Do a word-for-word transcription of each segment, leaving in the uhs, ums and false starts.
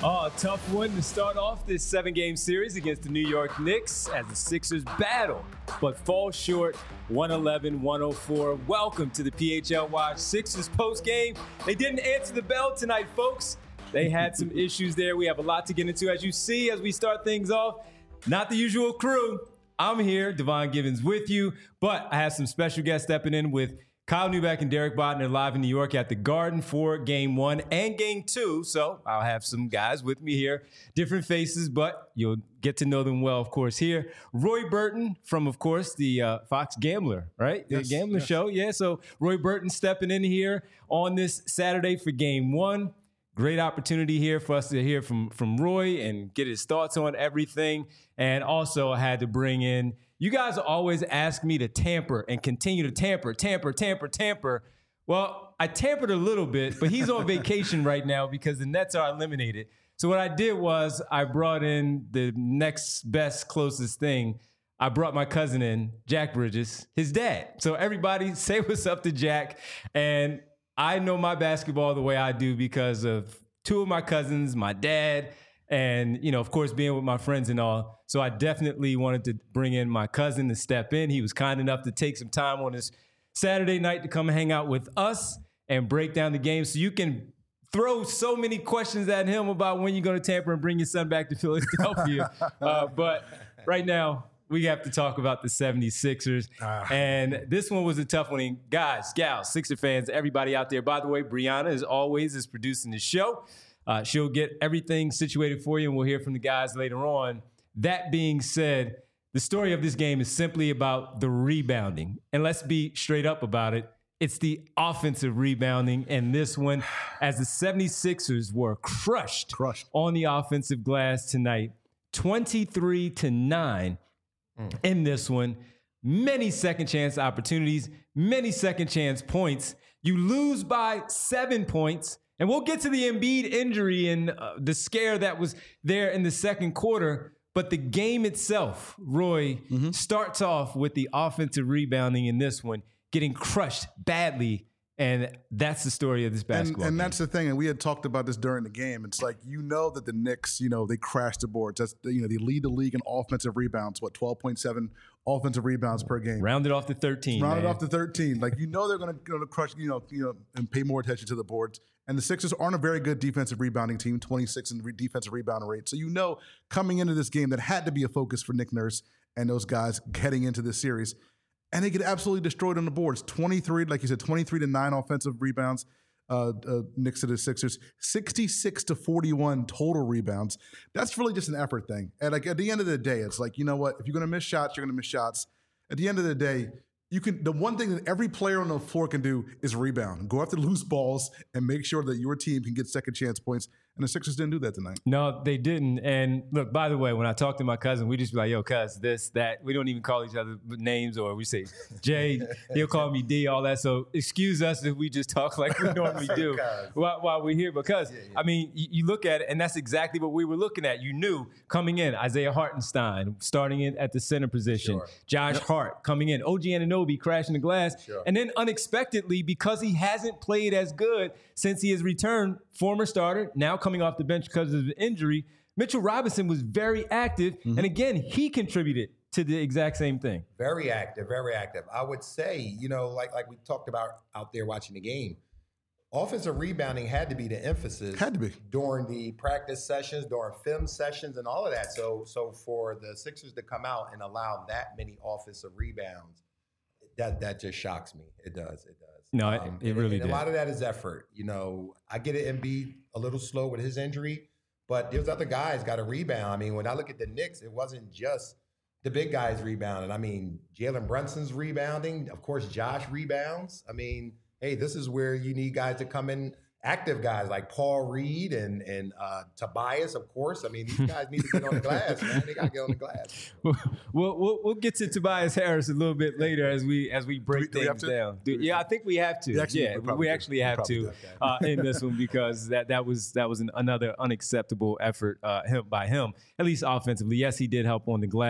Oh, a tough one to start off this seven-game series against the New York Knicks as the Sixers battle, but fall short one eleven one oh four. Welcome to the P H L Watch Sixers post-game. They didn't answer the bell tonight, folks. They had some issues there. We have a lot to get into. As you see, as we start things off, not the usual crew. I'm here, Devon Givens with you, but I have some special guests stepping in with Kyle Neubeck and Derek Bodner live in New York at the Garden for game one and game two. So I'll have some guys with me here, different faces, but you'll get to know them well, of course, here. Roy Burton from, of course, the uh, Fox Gambler, right? Yes, the Gambler yes. show. Yeah, so Roy Burton stepping in here on this Saturday for game one. Great opportunity here for us to hear from, from Roy and get his thoughts on everything. And also I had to bring in, you guys always ask me to tamper and continue to tamper, tamper, tamper, tamper. Well, I tampered a little bit, but he's on vacation right now because the Nets are eliminated. So what I did was I brought in the next best, closest thing. I brought my cousin in, Jack Bridges, his dad. So everybody say what's up to Jack. And I know my basketball the way I do because of two of my cousins, my dad, and, you know, of course, being with my friends and all. So I definitely wanted to bring in my cousin to step in. He was kind enough to take some time on his Saturday night to come and hang out with us and break down the game. So you can throw so many questions at him about when you're going to tamper and bring your son back to Philadelphia. uh, but right now, we have to talk about the seventy-sixers. Uh, and this one was a tough one. And guys, gals, Sixer fans, everybody out there. By the way, Brianna, as always, is producing the show. Uh, she'll get everything situated for you, and we'll hear from the guys later on. That being said, the story of this game is simply about the rebounding. And let's be straight up about it. It's the offensive rebounding. And this one, as the seventy-sixers were crushed, crushed. on the offensive glass tonight, twenty-three to nine. Mm. In this one, many second chance opportunities, many second chance points. You lose by seven points, and we'll get to the Embiid injury and uh, the scare that was there in the second quarter. But the game itself, Roy, mm-hmm. starts off with the offensive rebounding in this one, getting crushed badly. And that's the story of this basketball And, and game. that's the thing. And we had talked about this during the game. It's like, you know that the Knicks, you know, they crash the boards. That's, you know, they lead the league in offensive rebounds. What, twelve point seven offensive rebounds per game. Rounded off to thirteen. Rounded man. off to thirteen. Like, you know they're going to crush, you know, you know, and pay more attention to the boards. And the Sixers aren't a very good defensive rebounding team, twenty-six in re- defensive rebound rate. So you know coming into this game that had to be a focus for Nick Nurse and those guys heading into this series. And they get absolutely destroyed on the boards. twenty-three, like you said, twenty-three to nine offensive rebounds. Uh, uh, Knicks to the Sixers, sixty-six to forty-one total rebounds. That's really just an effort thing. And like at the end of the day, it's like, you know what? If you're going to miss shots, you're going to miss shots. At the end of the day, you can. The one thing that every player on the floor can do is rebound, go after loose balls, and make sure that your team can get second chance points. And the Sixers didn't do that tonight. No, they didn't. And look, by the way, when I talk to my cousin, we just be like, yo, cuz, this, that. We don't even call each other names, or we say Jay, he'll call me D, all that. So excuse us if we just talk like we normally do while, while we're here. Because, yeah, yeah. I mean, you, you look at it, and that's exactly what we were looking at. You knew coming in, Isaiah Hartenstein starting in at the center position, sure. Josh yep. Hart coming in, O G Anunoby crashing the glass. Sure. And then unexpectedly, because he hasn't played as good since he has returned, former starter, now coming off the bench because of the injury, Mitchell Robinson was very active. Mm-hmm. And again, he contributed to the exact same thing. Very active, very active. I would say, you know, like like we talked about out there watching the game, offensive rebounding had to be the emphasis. Had to be. During the practice sessions, during film sessions and all of that. So, so for the Sixers to come out and allow that many offensive rebounds, that that just shocks me. It does, it does. No, um, it, it and, really and did. A lot of that is effort. You know, I get it, Embiid a little slow with his injury, but there's other guys got to rebound. I mean, when I look at the Knicks, it wasn't just the big guys rebounding. I mean, Jalen Brunson's rebounding. Of course, Josh rebounds. I mean, hey, this is where you need guys to come in, active guys like Paul Reed and and uh, Tobias, of course. I mean, these guys need to get on the glass, man. They got to get on the glass. We'll, we'll we'll get to Tobias Harris a little bit later as we as we break do we, things do we down. Do, yeah, I think we have to. We actually, yeah, we, we actually do. have we to uh, in this one because that that was that was an, another unacceptable effort uh, him, by him, at least offensively. Yes, he did help on the glass,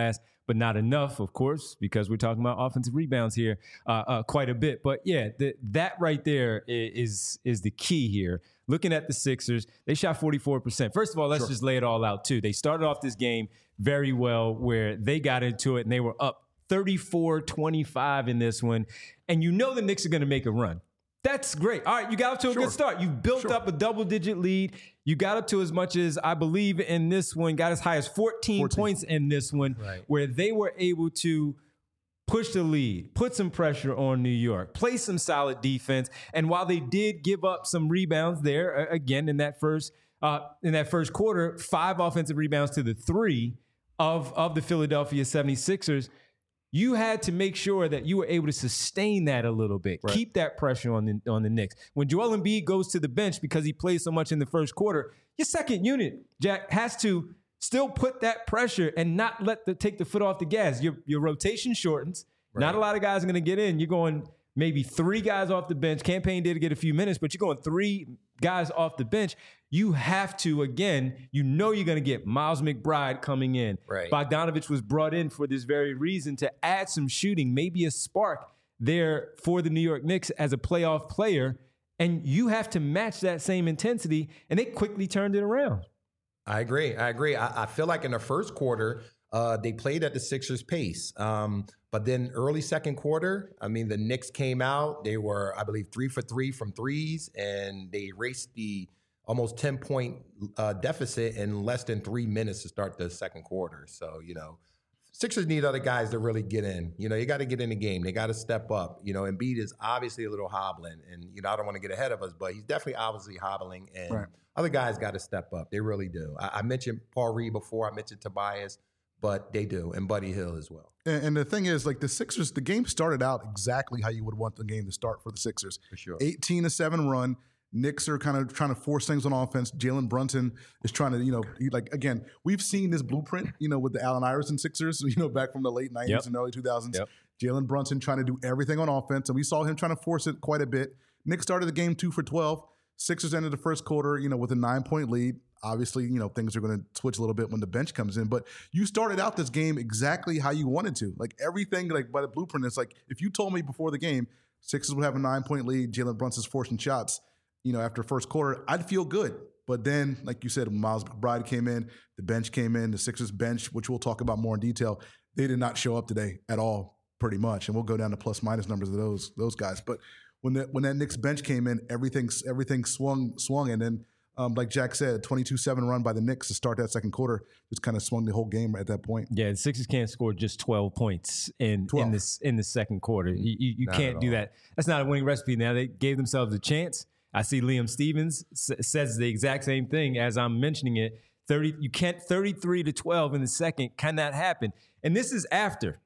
but not enough, of course, because we're talking about offensive rebounds here uh, uh, quite a bit. But yeah, the, that right there is is the key here. Looking at the Sixers, they shot forty-four percent. First of all, let's sure. just lay it all out too. They started off this game very well where they got into it and they were up thirty-four twenty-five in this one. And you know the Knicks are going to make a run. That's great. All right, you got up to a sure. good start. You built sure. up a double-digit lead. You got up to as much as, I believe, in this one, got as high as fourteen, fourteen. points in this one, right. where they were able to push the lead, put some pressure on New York, play some solid defense. And while they did give up some rebounds there, again, in that first uh, in that first quarter, five offensive rebounds to the three of, of the Philadelphia seventy-sixers, you had to make sure that you were able to sustain that a little bit, right. keep that pressure on the on the Knicks. When Joel Embiid goes to the bench because he plays so much in the first quarter, your second unit, Jack, has to still put that pressure and not let the take the foot off the gas. Your your rotation shortens. Right. Not a lot of guys are going to get in. You're going maybe three guys off the bench. Campaign did get a few minutes, but you're going three guys off the bench. You have to, again, you know you're going to get Miles McBride coming in. Right. Bogdanovich was brought in for this very reason, to add some shooting, maybe a spark there for the New York Knicks as a playoff player. And you have to match that same intensity, and they quickly turned it around. I agree. I agree. I, I feel like in the first quarter, uh, they played at the Sixers' pace. Um, but then early second quarter, I mean, the Knicks came out. They were, I believe, three for three from threes, and they erased the almost ten-point uh, deficit in less than three minutes to start the second quarter. So, you know, Sixers need other guys to really get in. You know, you got to get in the game. They got to step up. You know, Embiid is obviously a little hobbling, and, you know, I don't want to get ahead of us, but he's definitely obviously hobbling, and right. other guys got to step up. They really do. I, I mentioned Paul Reed before. I mentioned Tobias, but they do, and Buddy Hield as well. And, and the thing is, like, the Sixers, the game started out exactly how you would want the game to start for the Sixers. For sure. eighteen to seven run. Knicks are kind of trying to force things on offense. Jalen Brunson is trying to, you know, he, like, again, we've seen this blueprint, you know, with the Allen Iverson Sixers, you know, back from the late nineties yep. and early two thousands. Yep. Jalen Brunson trying to do everything on offense, and we saw him trying to force it quite a bit. Knicks started the game two for twelve. Sixers ended the first quarter, you know, with a nine-point lead. Obviously, you know, things are going to switch a little bit when the bench comes in, but you started out this game exactly how you wanted to. Like, everything, like, by the blueprint, it's like, if you told me before the game Sixers would have a nine-point lead, Jalen Brunson's forcing shots, you know, after first quarter, I'd feel good. But then, like you said, when Miles McBride came in, the bench came in, the Sixers bench, which we'll talk about more in detail, they did not show up today at all, pretty much. And we'll go down to plus minus numbers of those those guys. But when that when that Knicks bench came in, everything everything swung swung, and then um, like Jack said, twenty-two seven run by the Knicks to start that second quarter just kind of swung the whole game at that point. Yeah, the Sixers can't score just twelve points in twelve. in this in the second quarter. You, you, you can't do that. That's not a winning recipe. Now they gave themselves a chance. I see Liam Stevens s- says the exact same thing as I'm mentioning it. thirty, you can't thirty-three to twelve in the second. Can that happen? And this is after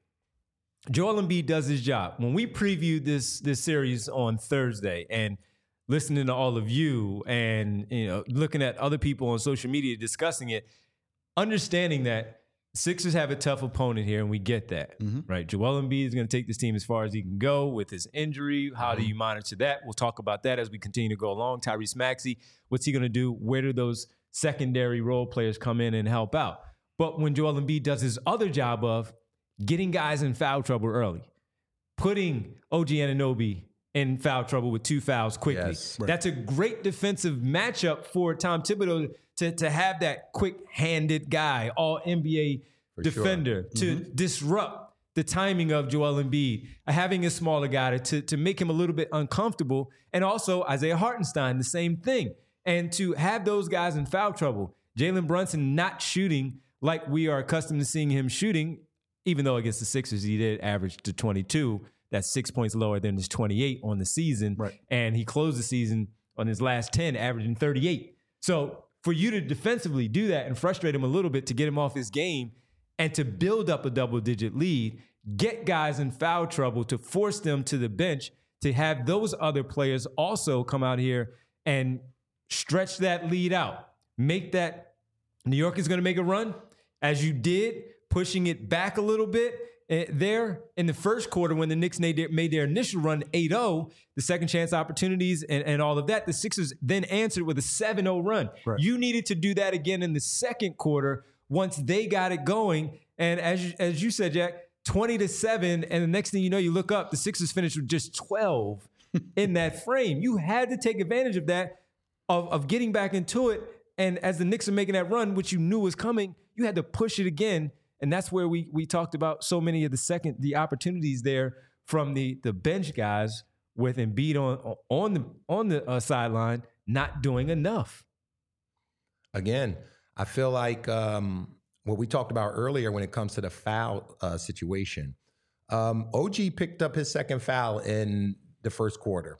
Joel Embiid does his job. When we previewed this this series on Thursday, and listening to all of you, and you know, looking at other people on social media discussing it, understanding that Sixers have a tough opponent here, and we get that, mm-hmm. right? Joel Embiid is going to take this team as far as he can go with his injury. How mm-hmm. do you monitor that? We'll talk about that as we continue to go along. Tyrese Maxey, what's he going to do? Where do those secondary role players come in and help out? But when Joel Embiid does his other job of getting guys in foul trouble early, putting O G Anunoby in foul trouble with two fouls quickly, yes, right. that's a great defensive matchup for Tom Thibodeau to, to have that quick-handed guy, all N B A for defender, sure. to mm-hmm. disrupt the timing of Joel Embiid, having a smaller guy to, to make him a little bit uncomfortable, and also Isaiah Hartenstein, the same thing. And to have those guys in foul trouble, Jalen Brunson not shooting like we are accustomed to seeing him shooting, even though against the Sixers he did average to twenty-two. That's six points lower than his twenty-eight on the season. Right. And he closed the season on his last ten, averaging thirty-eight. So for you to defensively do that and frustrate him a little bit to get him off his game and to build up a double-digit lead, get guys in foul trouble to force them to the bench, to have those other players also come out here and stretch that lead out. Make that New York is going to make a run, as you did, pushing it back a little bit. Uh, there in the first quarter when the Knicks made their, made their initial run eight oh, the second chance opportunities and, and all of that, the Sixers then answered with a seven oh run. Right. You needed to do that again in the second quarter once they got it going. And as you, as you said, Jack, twenty to seven, and the next thing you know, you look up, the Sixers finished with just twelve in that frame. You had to take advantage of that, of, of getting back into it. And as the Knicks are making that run, which you knew was coming, you had to push it again. And that's where we we talked about so many of the second the opportunities there from the the bench guys with Embiid on on the on the uh, sideline not doing enough. Again, I feel like um, what we talked about earlier when it comes to the foul uh, situation. Um, O G picked up his second foul in the first quarter,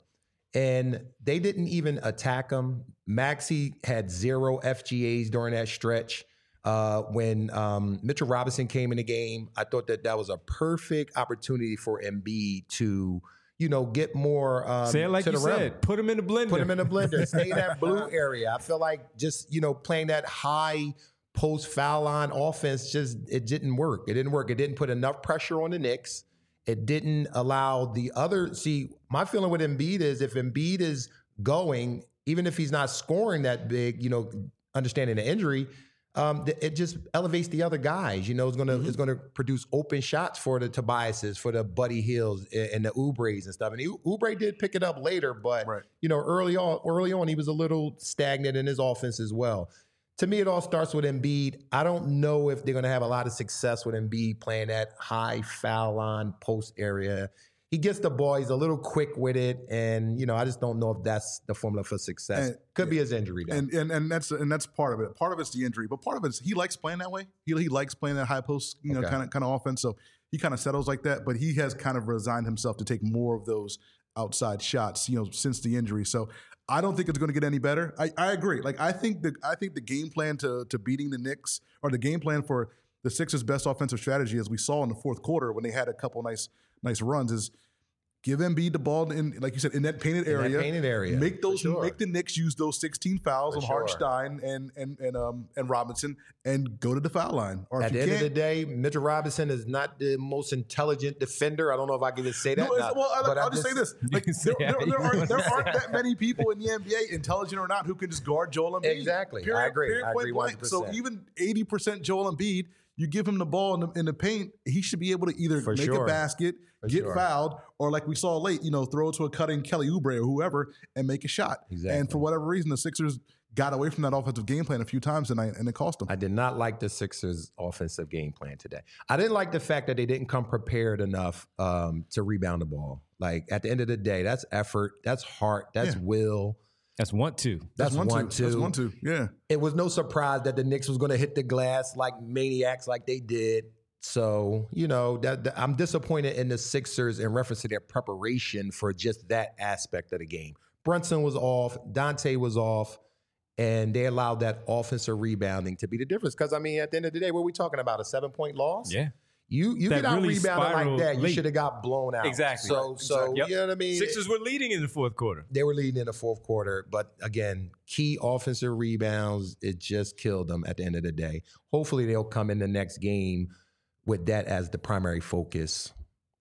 and they didn't even attack him. Maxey had zero F G As during that stretch. Uh, when um, Mitchell Robinson came in the game, I thought that that was a perfect opportunity for Embiid to, you know, get more. Um, Say it like to you the rim. said. Put him in the blender. Put him in the blender. Stay in that blue area. I feel like just, you know, playing that high post foul line offense, just it didn't work. It didn't work. It didn't put enough pressure on the Knicks. It didn't allow the other. See, my feeling with Embiid is if Embiid is going, even if he's not scoring that big, you know, understanding the injury, um, it just elevates the other guys. You know, it's gonna mm-hmm. it's gonna produce open shots for the Tobiases, for the Buddy Hills and the Oubres and stuff. And Oubre did pick it up later, but right. you know, early on, early on, he was a little stagnant in his offense as well. To me, it all starts with Embiid. I don't know if they're going to have a lot of success with Embiid playing that high foul line post area. He gets the ball. He's a little quick with it, and you know, I just don't know if that's the formula for success. And, Could be his injury, though. and and and that's and that's part of it. Part of it's the injury, but part of it's he likes playing that way. He he likes playing that high post, you know, kind of kind of offense. So he kind of settles like that. But he has kind of resigned himself to take more of those outside shots, you know, since the injury. So I don't think it's going to get any better. I, I agree. Like I think the I think the game plan to to beating the Knicks, or the game plan for the Sixers' best offensive strategy, as we saw in the fourth quarter when they had a couple nice nice runs, is give Embiid the ball in, like you said, in that painted in area. That painted area. Make those, sure. make the Knicks use those sixteen fouls For on sure. Hartenstein and and and um and Robinson, and go to the foul line. Or At if the you end can't, of the day, Mitchell Robinson is not the most intelligent defender. I don't know if I can just say that. No, now, well, I'll, but I'll I'm just say this: like, say there, there, there, aren't, there aren't say. that many people in the N B A, intelligent or not, who can just guard Joel Embiid. Exactly. Period, I agree. Period, I point agree blank. one hundred percent. So even eighty percent Joel Embiid, you give him the ball in the, in the paint, he should be able to either For make sure. a basket, For get sure. fouled, or like we saw late, you know, throw it to a cutting Kelly Oubre or whoever and make a shot. Exactly. And for whatever reason, the Sixers got away from that offensive game plan a few times tonight, and it cost them. I did not like the Sixers' offensive game plan today. I didn't like the fact that they didn't come prepared enough um, to rebound the ball. Like at the end of the day, that's effort, that's heart, that's Yeah. will. That's one, two. That's, one, one, two. two. That's one, two. Yeah. It was no surprise that the Knicks was going to hit the glass like maniacs, like they did. So, you know, that, that I'm disappointed in the Sixers in reference to their preparation for just that aspect of the game. Brunson was off, Dante was off, and they allowed that offensive rebounding to be the difference. Because, I mean, at the end of the day, what are we talking about? A seven-point loss? Yeah. You you That get out really rebounded like spiraled that, you late. should have got blown out. Exactly. So, Right. so Exactly. Yep. you know what I mean? Sixers were leading in the fourth quarter. They were leading in the fourth quarter, but again, key offensive rebounds, it just killed them at the end of the day. Hopefully they'll come in the next game with that as the primary focus.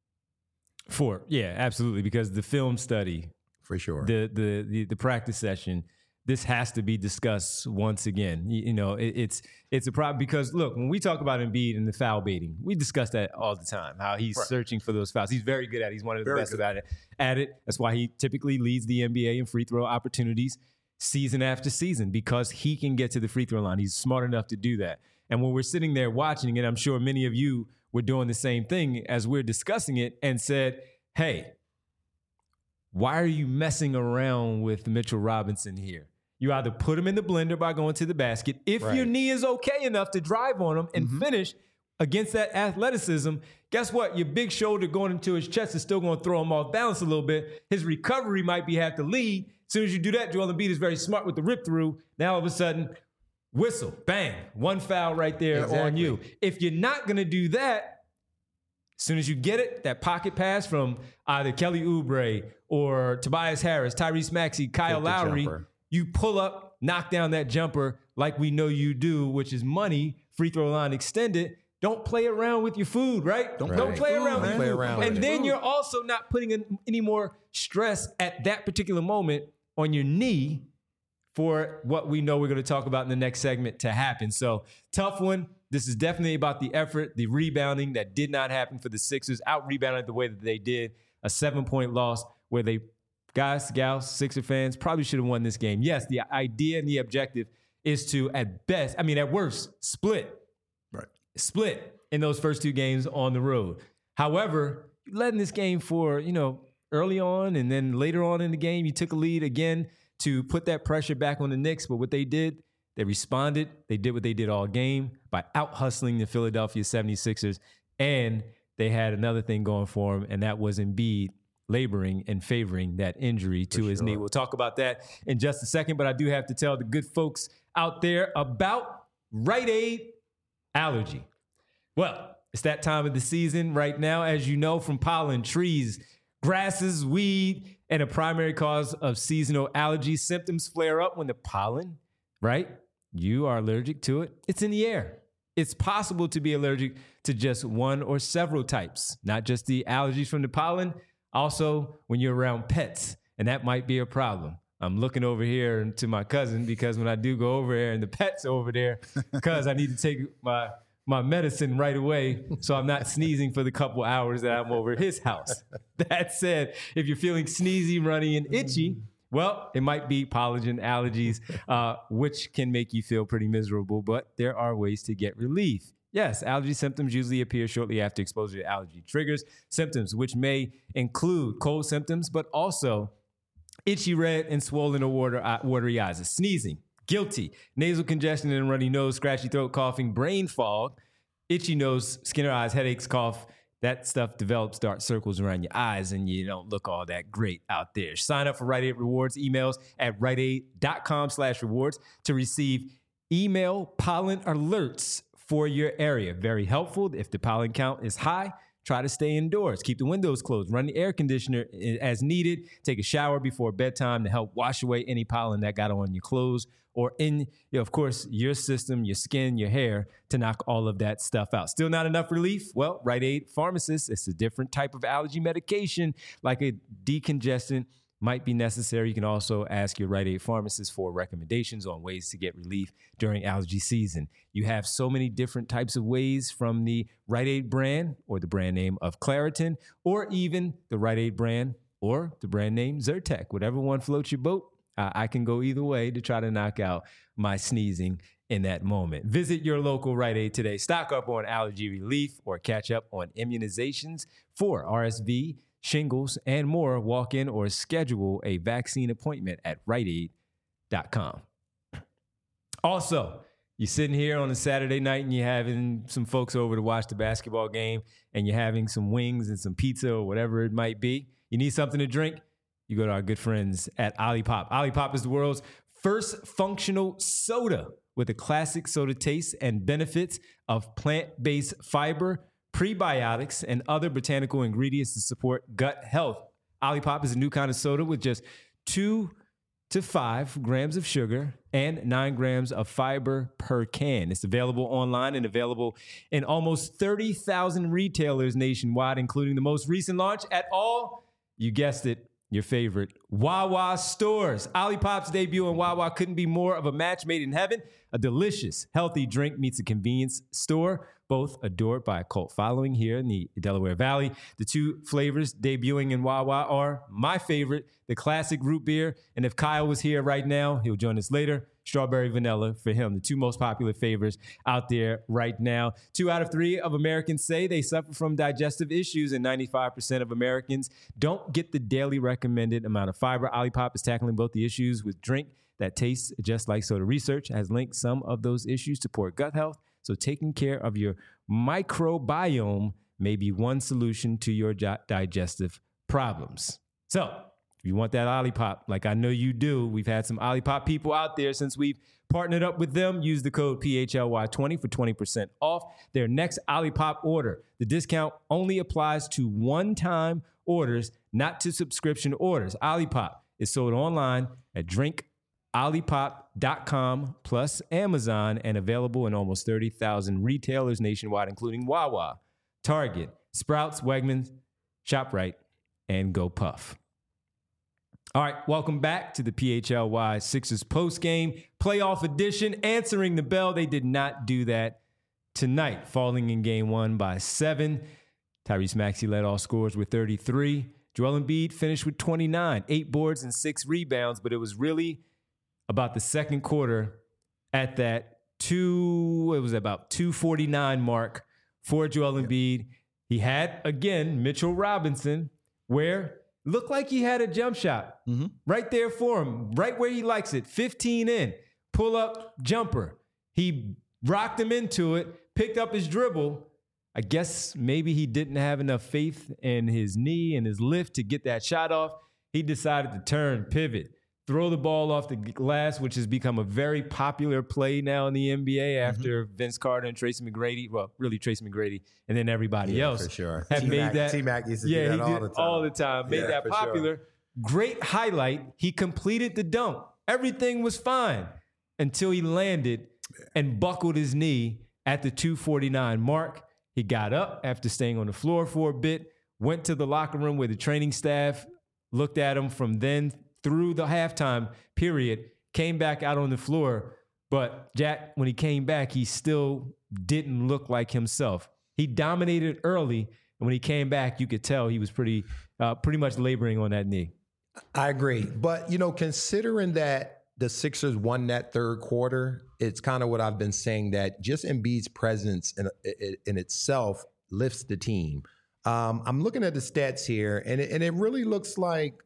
For yeah, absolutely. Because the film study, For sure. the the the, the practice session, this has to be discussed once again. You, you know, it, it's it's a problem because look, when we talk about Embiid and the foul baiting, we discuss that all the time. How he's Right. searching for those fouls. He's very good at it. He's one of the Very best good. about it. At it. That's why he typically leads the N B A in free throw opportunities season after season, because he can get to the free throw line. He's smart enough to do that. And when we're sitting there watching it, I'm sure many of you were doing the same thing as we're discussing it and said, hey, why are you messing around with Mitchell Robinson here? You either put him in the blender by going to the basket. If Right. your knee is okay enough to drive on him and Mm-hmm. finish against that athleticism, guess what? Your big shoulder going into his chest is still going to throw him off balance a little bit. His recovery might be have to lead. As soon as you do that, Joel Embiid is very smart with the rip through. Now all of a sudden, whistle, bang, one foul right there on Exactly. you. If you're not going to do that, as soon as you get it, that pocket pass from either Kelly Oubre or Tobias Harris, Tyrese Maxey, Kyle Take the Lowry, jumper. you pull up, knock down that jumper like we know you do, which is money, free throw line extended. Don't play around with your food, right? Don't, Right. don't play Food, around with man. your Play food. around with And it. then you're also not putting in any more stress at that particular moment on your knee for what we know we're going to talk about in the next segment to happen. So tough one. this is definitely about the effort, the rebounding that did not happen for the Sixers. Out-rebounded the way that they did. A seven-point loss where they, guys, gals, Sixer fans, probably should have won this game. Yes, the idea and the objective is to, at best, I mean, at worst, split. Right. Split in those first two games on the road. However, you led in this game for, you know, early on, and then later on in the game, you took a lead again to put that pressure back on the Knicks. But what they did, they responded. They did what they did all game by out-hustling the Philadelphia seventy-sixers. And they had another thing going for them, and that was Embiid laboring and favoring that injury to his knee. We'll talk about that in just a second, but I do have to tell the good folks out there about Rite Aid allergy. Well, it's that time of the season right now, as you know, from pollen, trees, grasses, weed, and a primary cause of seasonal allergy. Symptoms flare up when the pollen, right? You are allergic to it. It's in the air. It's possible to be allergic to just one or several types, not just the allergies from the pollen, also when you're around pets, and that might be a problem. I'm looking over here to my cousin because when I do go over there and the pet's over there, because I need to take my my medicine right away so I'm not sneezing for the couple hours that I'm over at his house. That said, if you're feeling sneezy, runny, and itchy, well, it might be pollen allergies, uh, which can make you feel pretty miserable, but there are ways to get relief. Yes, allergy symptoms usually appear shortly after exposure to allergy triggers. Symptoms, which may include cold symptoms, but also itchy, red, and swollen or water, uh, watery eyes, sneezing, guilty, nasal congestion and runny nose, scratchy throat, coughing, brain fog, itchy nose, skin or eyes, headaches, cough. That stuff develops dark circles around your eyes and you don't look all that great out there. Sign up for Rite Aid Rewards emails at riteaid.com slash rewards to receive email pollen alerts for your area. Very helpful. If the pollen count is high, try to stay indoors. Keep the windows closed. Run the air conditioner as needed. Take a shower before bedtime to help wash away any pollen that got on your clothes or in, you know, of course, your system, your skin, your hair, to knock all of that stuff out. Still not enough relief? Well, Rite Aid Pharmacist, it's a different type of allergy medication, like a decongestant might be necessary. You can also ask your Rite Aid pharmacist for recommendations on ways to get relief during allergy season. You have so many different types of ways, from the Rite Aid brand or the brand name of Claritin, or even the Rite Aid brand or the brand name Zyrtec. Whatever one floats your boat, uh, I can go either way to try to knock out my sneezing in that moment. Visit your local Rite Aid today. Stock up on allergy relief or catch up on immunizations for R S V, shingles, and more. Walk in or schedule a vaccine appointment at rite aid dot com. Also, you're sitting here on a Saturday night and you're having some folks over to watch the basketball game and you're having some wings and some pizza or whatever it might be. You need something to drink? You go to our good friends at Olipop. Olipop is the world's first functional soda with a classic soda taste and benefits of plant-based fiber, prebiotics, and other botanical ingredients to support gut health. Olipop is a new kind of soda with just two to five grams of sugar and nine grams of fiber per can. It's available online and available in almost thirty thousand retailers nationwide, including the most recent launch at all, you guessed it, your favorite Wawa stores. Olipop's debut in Wawa couldn't be more of a match made in heaven. A delicious, healthy drink meets a convenience store, both adored by a cult following here in the Delaware Valley. The two flavors debuting in Wawa are my favorite, the classic root beer. And if Kyle was here right now, he'll join us later. Strawberry vanilla for him, the two most popular flavors out there right now. Two out of three of Americans say they suffer from digestive issues, and ninety-five percent of Americans don't get the daily recommended amount of fiber. Olipop is tackling both the issues with drink that tastes just like soda. Research has linked some of those issues to poor gut health, so taking care of your microbiome may be one solution to your digestive problems. So, if you want that Olipop, like I know you do, we've had some Olipop people out there since we've partnered up with them. Use the code P H L Y twenty for twenty percent off their next Olipop order. The discount only applies to one-time orders, not to subscription orders. Olipop is sold online at drink olipop dot com plus Amazon and available in almost thirty thousand retailers nationwide, including Wawa, Target, Sprouts, Wegmans, ShopRite, and GoPuff. All right, welcome back to the P H L Y Sixers postgame playoff edition. Answering the bell, they did not do that tonight, falling in game one by seven. Tyrese Maxey led all scorers with thirty-three. Joel Embiid finished with twenty-nine, eight boards and six rebounds, but it was really about the second quarter at that two, it was about two forty-nine mark for Joel Embiid. He had, again, Mitchell Robinson, where looked like he had a jump shot mm-hmm. right there for him, right where he likes it, fifteen in, pull up jumper. He rocked him into it, picked up his dribble. I guess maybe he didn't have enough faith in his knee and his lift to get that shot off. He decided to turn, pivot, throw the ball off the glass, which has become a very popular play now in the N B A after mm-hmm. Vince Carter and Tracy McGrady. Well, really Tracy McGrady, and then everybody yeah, else for sure. have T-Mac, made that. T-Mac used to yeah, do that he all did the time. all the time. Made yeah, that popular. Sure. Great highlight. He completed the dunk. Everything was fine until he landed and buckled his knee at the two forty-nine mark. He got up after staying on the floor for a bit, went to the locker room where the training staff looked at him from then through the halftime period, came back out on the floor. But Jack, when he came back, he still didn't look like himself. He dominated early, and when he came back, you could tell he was pretty, uh, pretty much laboring on that knee. I agree. But, you know, considering that the Sixers won that third quarter, it's kind of what I've been saying, that just Embiid's presence in, in itself lifts the team. Um, I'm looking at the stats here, and it, and it really looks like,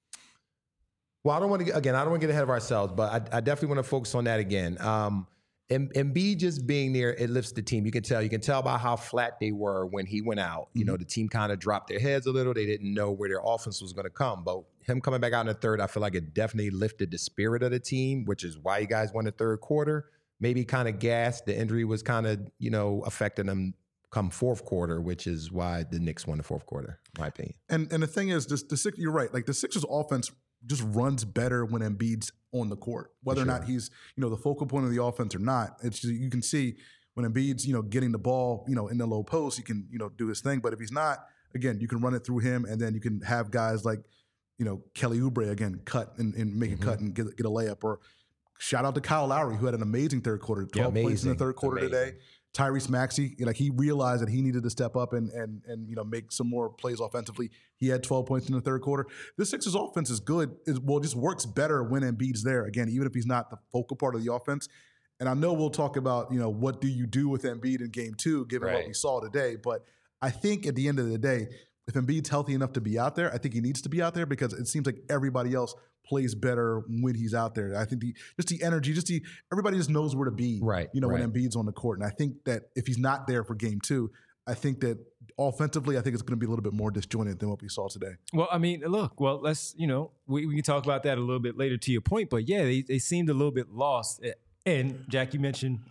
well, I don't want to, again, I don't want to get ahead of ourselves, but I, I definitely want to focus on that again. Um, Embiid just being there, it lifts the team. You can tell. You can tell by how flat they were when he went out. You mm-hmm. know, the team kind of dropped their heads a little. They didn't know where their offense was going to come. But him coming back out in the third, I feel like it definitely lifted the spirit of the team, which is why you guys won the third quarter. Maybe kind of gassed. The injury was kind of, you know, affecting them come fourth quarter, which is why the Knicks won the fourth quarter, in my opinion. And and the thing is, this, the Six, you're right. Like the Sixers offense just runs better when Embiid's on the court, whether sure. or not he's, you know, the focal point of the offense or not. It's just, you can see when Embiid's, you know, getting the ball, you know, in the low post, he can, you know, do his thing. But if he's not, again, you can run it through him, and then you can have guys like, you know, Kelly Oubre again cut and, and make mm-hmm. a cut and get get a layup. Or shout out to Kyle Lowry, who had an amazing third quarter, twelve yeah, points in the third quarter amazing. today. Tyrese Maxey, like he realized that he needed to step up and and and you know make some more plays offensively. He had twelve points in the third quarter. The Sixers offense is good. It, well, it just works better when Embiid's there. Again, even if he's not the focal part of the offense. And I know we'll talk about, you know, what do you do with Embiid in game two, given right. what we saw today. But I think at the end of the day, if Embiid's healthy enough to be out there, I think he needs to be out there, because it seems like everybody else plays better when he's out there. I think the just the energy, just the everybody just knows where to be, right? You know, right. when Embiid's on the court. And I think that if he's not there for game two, I think that offensively, I think it's going to be a little bit more disjointed than what we saw today. Well, I mean, look, well, let's, you know, we, we can talk about that a little bit later to your point, but yeah, they, they seemed a little bit lost. And Jack, you mentioned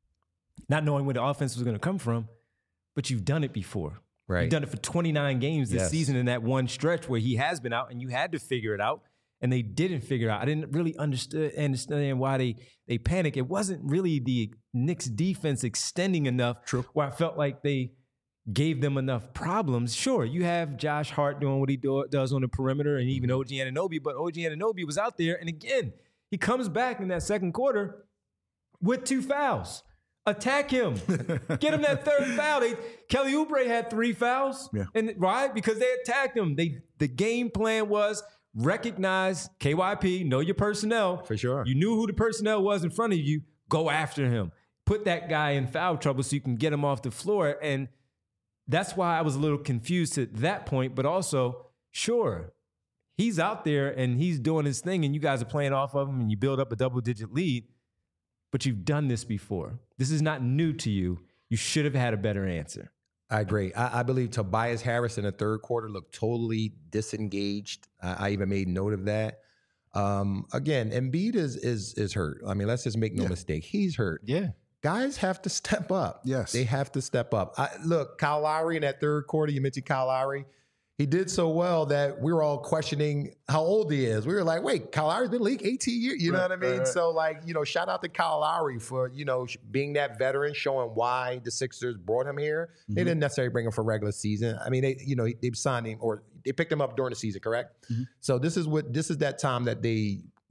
not knowing where the offense was going to come from, but you've done it before. Right. You've done it for twenty-nine games this yes. season in that one stretch where he has been out and you had to figure it out, and they didn't figure it out. I didn't really understand, understand why they, they panicked. It wasn't really the Knicks defense extending enough True. where I felt like they gave them enough problems. Sure, you have Josh Hart doing what he do, does on the perimeter, and even O G Anunoby, but O G Anunoby was out there, and again, he comes back in that second quarter with two fouls. Attack him. Get him that third foul. They, Kelly Oubre had three fouls, yeah. and right? Because they attacked him. They The game plan was recognize K Y P, know your personnel. For sure. You knew who the personnel was in front of you. Go after him. Put that guy in foul trouble so you can get him off the floor. And that's why I was a little confused at that point. But also, sure, he's out there and he's doing his thing, and you guys are playing off of him, and you build up a double-digit lead. But you've done this before. This is not new to you. You should have had a better answer. I agree. I, I believe Tobias Harris in the third quarter looked totally disengaged. I, I even made note of that. Um, again, Embiid is is is hurt. I mean, let's just make no yeah. mistake. He's hurt. Yeah. Guys have to step up. Yes. They have to step up. I, look, Kyle Lowry in that third quarter, you mentioned Kyle Lowry. He did so well that we were all questioning how old he is. We were like, wait, Kyle Lowry's been in the league eighteen years. You know right, what I mean? Right. So, like, you know, shout out to Kyle Lowry for, you know, being that veteran, showing why the Sixers brought him here. Mm-hmm. They didn't necessarily bring him for regular season. I mean, they, you know, they signed him, or they picked him up during the season, correct? Mm-hmm. So this is what this is that time that they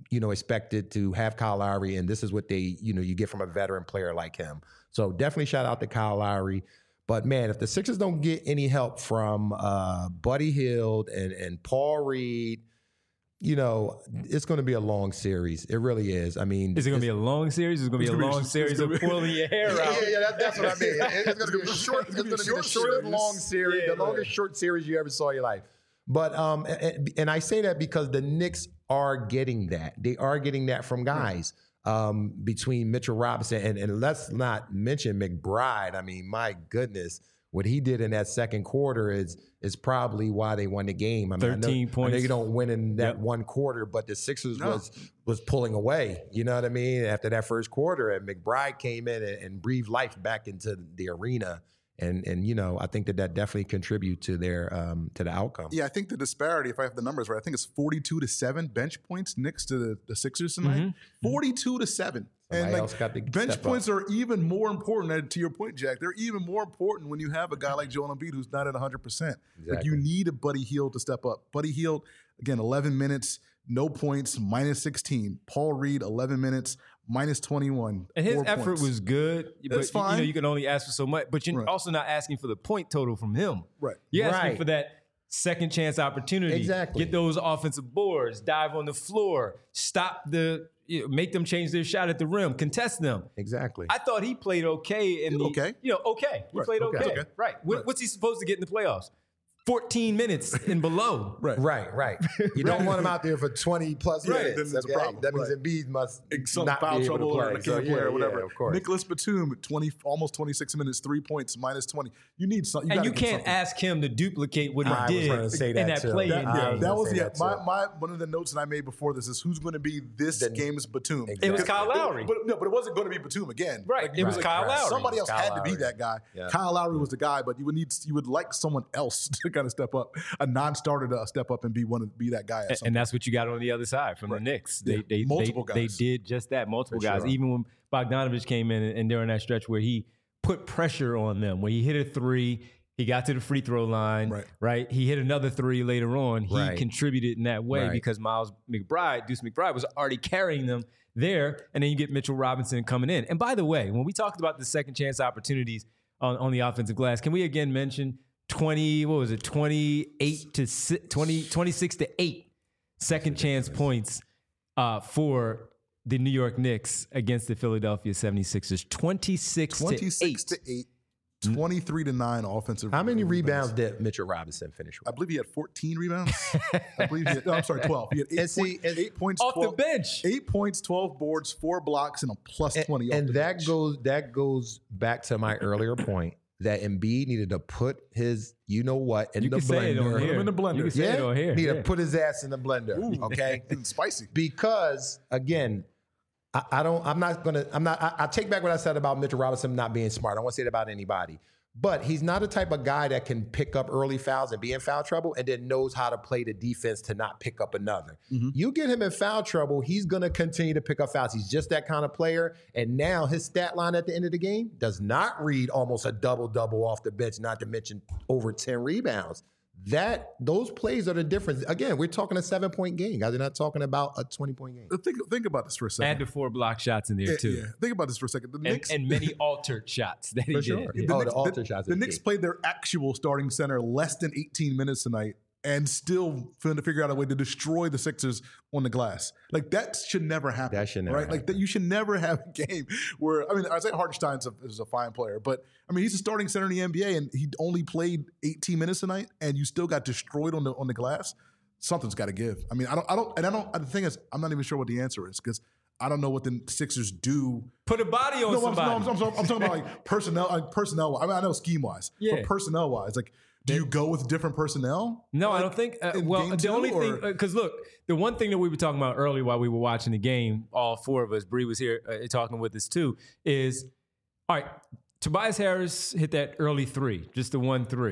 you know, expected to have Kyle Lowry, and this is what they, you know, you get from a veteran player like him. So definitely shout out to Kyle Lowry. But man, if the Sixers don't get any help from uh, Buddy Hield and and Paul Reed, you know, it's going to be a long series. It really is. I mean, is it going to be a long series? Is it going to be a long series of pulling your hair yeah, out? Yeah, yeah, that, that's what I mean. It's going to be a short. It's going to be the shortest long series, yeah, the longest short series you ever saw in your life. But um, and, and I say that because the Knicks are getting that. They are getting that from guys. Um, between Mitchell Robinson and, and let's not mention McBride. I mean, my goodness, what he did in that second quarter is is probably why they won the game. I mean, thirteen I know, points. I know you don't win in that Yep. one quarter, but the Sixers No. was was pulling away. You know what I mean? After that first quarter, and McBride came in and, and breathed life back into the arena. And and you know, I think that that definitely contribute to their um, to the outcome. Yeah, I think the disparity, if I have the numbers right, I think it's forty-two to seven bench points next to the, the Sixers tonight. Mm-hmm. forty-two to seven. Somebody and like, else got to bench step points up. are even more important. And to your point, Jack, they're even more important when you have a guy like Joel Embiid who's not at one hundred percent. Like you Exactly. need a Buddy Hield to step up. Buddy Hield, again, eleven minutes, no points, minus sixteen. Paul Reed, eleven minutes, minus twenty-one. And his four effort points. was good, but It's you know fine. you can only ask for so much. But you're Right. also not asking for the point total from him. Right. You're asking Right. for that second chance opportunity. Exactly. Get those offensive boards, dive on the floor, stop the, you know, make them change their shot at the rim, contest them. Exactly. I thought he played okay in the Okay. You know, okay. He Right. played Okay. okay. Okay. Right. What, Right. What's he supposed to get in the playoffs? fourteen minutes and below. Right. Right, right. You don't want him out there for twenty plus Right, minutes. then it's a okay? problem, That means right. Embiid must Some not foul be able trouble to or play. can't So, play yeah, or whatever. Yeah, of course. Nicholas Batum, twenty, almost twenty-six minutes, three points, minus twenty. You need something. And you can't ask him to duplicate what he I was did gonna say in that that too. play That, in I yeah, game. was that gonna was say yeah. that My, too. my one of the notes that I made before this is who's going to be this The- game's Batum. Exactly. It was Kyle Lowry. But no, but it wasn't going to be Batum again. Right. It was like, Kyle Lowry. Somebody else Kyle had to be Lowry. that guy. Yeah. Kyle Lowry was the guy, but you would need you would like someone else to kind of step up, a non-starter to step up and be one of be that guy. At some And that's what you got on the other side from Right. the Knicks. They Yeah. they, Multiple they, guys. they did just that. Multiple For guys. sure. Even when Bogdanovich came in and, and during that stretch where he put pressure on them, where he hit a three, he got to the free throw line, Right. right? He hit another three later on. He Right. contributed in that way Right. because Miles McBride, Deuce McBride, was already carrying them there. And then you get Mitchell Robinson coming in. And by the way, when we talked about the second chance opportunities on, on the offensive glass, can we again mention twenty, what was it, twenty-eight to si- twenty, twenty-six to eight second chance points uh, for the New York Knicks against the Philadelphia seventy-sixers. twenty-six, twenty-six to to eight. eight, twenty-three to nine offensive. How many rebounds did Mitchell Robinson finish I with? believe he had fourteen rebounds. I believe he had. No, I'm sorry, twelve. He had eight, And see, point- and- eight points Off twelve, the bench. Eight points, twelve boards, four blocks, and a plus And, twenty. off and the that bench. goes that goes back to my earlier point that Embiid needed to put his you know what in You the can say it on blender. here. in the blender. You can say it on here. Need yeah. to put his ass in the blender. Ooh, Okay. and spicy. Because again, I, I don't. I'm not gonna. I'm not. I, I take back what I said about Mitchell Robinson not being smart. I don't want to say it about anybody. But he's not a type of guy that can pick up early fouls and be in foul trouble and then knows how to play the defense to not pick up another. Mm-hmm. You get him in foul trouble, he's going to continue to pick up fouls. He's just that kind of player. And now his stat line at the end of the game does not read almost a double-double off the bench, not to mention over ten rebounds. That those plays are the difference. Again, we're talking a seven-point game, guys. We're not talking about a twenty-point game. Think think about this for a second. Add the four block shots in there Yeah, too. yeah. Think about this for a second. The And, Knicks and many altered shots that he For did. sure. The Oh, the Knicks, alter shots The is Knicks key. played their actual starting center less than eighteen minutes tonight and still trying to figure out a way to destroy the Sixers on the glass. Like that should never happen. That should never right? Like happen. that, you should never have a game where I mean, Isaiah Hartenstein's a, is a fine player, but I mean he's a starting center in the N B A and he only played eighteen minutes tonight, and you still got destroyed on the on the glass. Something's got to give. I mean, I don't, I don't, and I don't. The thing is, I'm not even sure what the answer is because I don't know what the Sixers do. Put a body on No, I'm, somebody. no, I'm, I'm, I'm talking about like personnel, like personnel. I mean, I know scheme wise, Yeah. but personnel wise, like, do you go with different personnel? No, I Like, don't think. Uh, in well, game the two, only or- thing, because look, the one thing that we were talking about earlier while we were watching the game, all four of us, Bree was here uh, talking with us too, is all right. Tobias Harris hit that early three, just the one three.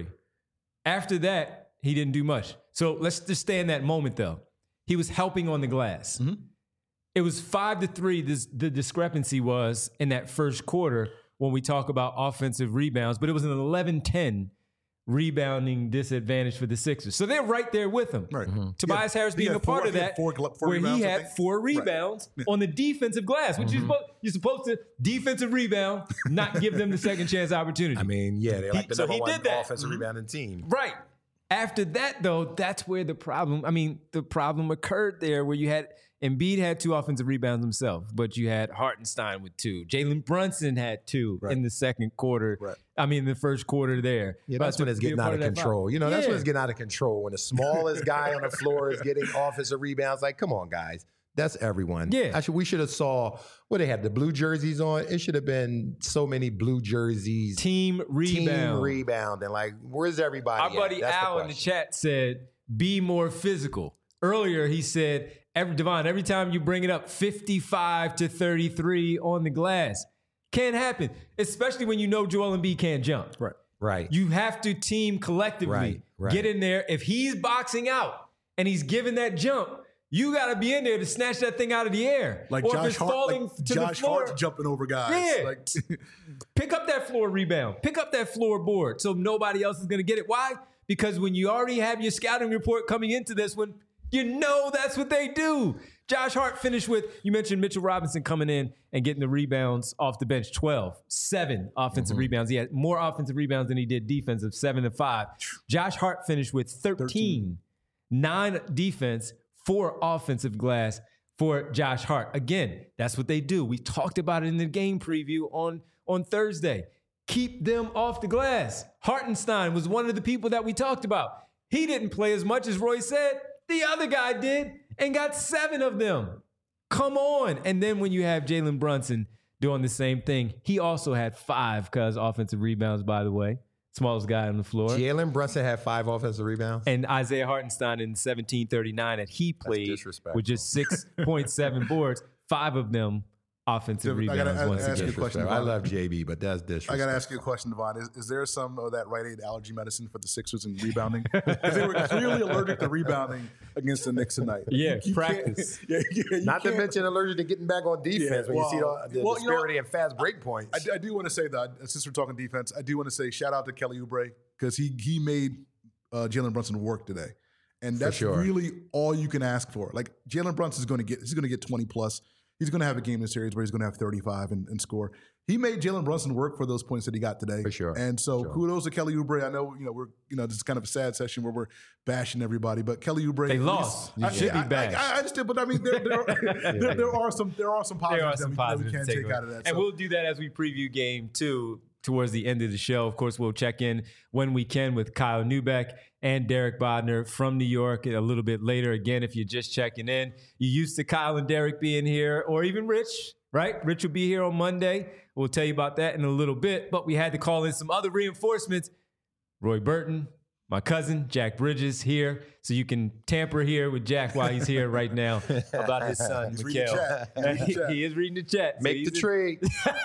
After that, he didn't do much. So let's just stay in that moment though. He was helping on the glass. Mm-hmm. It was five to three. This the discrepancy was in that first quarter when we talk about offensive rebounds, but it was an eleven ten rebounding disadvantage for the Sixers. So they're right there with him. Right. Mm-hmm. Tobias Yeah. Harris He being had a part four- of he had that, four gl- four where rebounds, he I had think. four Right. rebounds Yeah. on the defensive glass, which Mm-hmm. you're, supposed, you're supposed to defensive rebound, not give them the second chance opportunity. I mean, yeah, they're like He- the so number he one did that. offensive rebounding team. Right. After that, though, that's where the problem, I mean, the problem occurred there where you had Embiid had two offensive rebounds himself, but you had Hartenstein with two. Jalen Brunson had two Right. in the second quarter. Right. I mean, the first quarter there. Yeah, But that's to when it's be a getting out part of that control. fight. You know, that's Yeah. when it's getting out of control. When the smallest guy on the floor is getting offensive rebounds, like, come on, guys. That's everyone. Yeah. Actually, we should have saw what they had the blue jerseys on. It should have been so many blue jerseys. Team rebound. Team rebound. And like, where's everybody? Our at? buddy That's Al in the chat said, be more physical. Earlier, he said, every Devon, every time you bring it up, fifty-five to thirty-three on the glass. Can't happen, especially when you know Joel Embiid can't jump. Right. Right. You have to team collectively. Right, right. Get in there. If he's boxing out and he's giving that jump, you got to be in there to snatch that thing out of the air. Like or Josh if it's Hart, falling like to Josh the floor, Hart's jumping over guys. Yeah. Like, pick up that floor rebound. Pick up that floorboard so nobody else is going to get it. Why? Because when you already have your scouting report coming into this one, you know that's what they do. Josh Hart finished with, you mentioned Mitchell Robinson coming in and getting the rebounds off the bench, twelve, seven offensive Mm-hmm. rebounds. He had more offensive rebounds than he did defensive, seven to five. Josh Hart finished with thirteen, thirteen. nine defense, four offensive glass for Josh Hart. Again, that's what they do. We talked about it in the game preview on, on Thursday. Keep them off the glass. Hartenstein was one of the people that we talked about. He didn't play as much as Roy said. The other guy did and got seven of them. Come on. And then when you have Jalen Brunson doing the same thing, he also had five because offensive rebounds, by the way. Smallest guy on the floor. Jalen Brunson had five offensive rebounds. And Isaiah Hartenstein in seventeen thirty-nine that he played disrespectful. with just six point seven boards, five of them offensive I gotta rebounds ask- once ask again. you a question. I love J B, but that's disrespectful. I got to ask you a question, Devon. Is, is there some of that Rite Aid allergy medicine for the Sixers in rebounding? Because they were clearly allergic to rebounding against the Knicks tonight. Yeah, You- you practice. can't- Yeah, yeah, you Not to can't- mention allergic to getting back on defense Yeah, when you see well, the, the well, you know disparity in fast break points. I, I do want to say that since we're talking defense, I do want to say shout out to Kelly Oubre because he he made uh, Jalen Brunson work today, and that's sure. really all you can ask for. Like Jalen Brunson is going to get he's going to get twenty plus. He's going to have a game in the series where he's going to have thirty-five and, and score. He made Jalen Brunson work for those points that he got today. For sure. And so Sure. kudos to Kelly Oubre. I know, you know, we're, you know, this is kind of a sad session where we're bashing everybody, but Kelly Oubre. They at lost. least- You should be I, I, bashed. I, I understand, but I mean, there, there, are, there, there are some there are some positives, There are some that, we, positives that we to can take take away. out of that. And So- we'll do that as we preview game two towards the end of the show. Of course, we'll check in when we can with Kyle Neubeck and Derek Bodner from New York a little bit later. Again, if you're just checking in, you used to Kyle and Derek being here, or even Rich, right? Rich will be here on Monday. We'll tell you about that in a little bit, but we had to call in some other reinforcements. Roy Burton, my cousin, Jack Bridges here, so you can tamper here with Jack while he's here right now about his son, He's reading Mikhail. the chat. He's reading the he, chat. he is reading the chat. so Make he's the in- trade.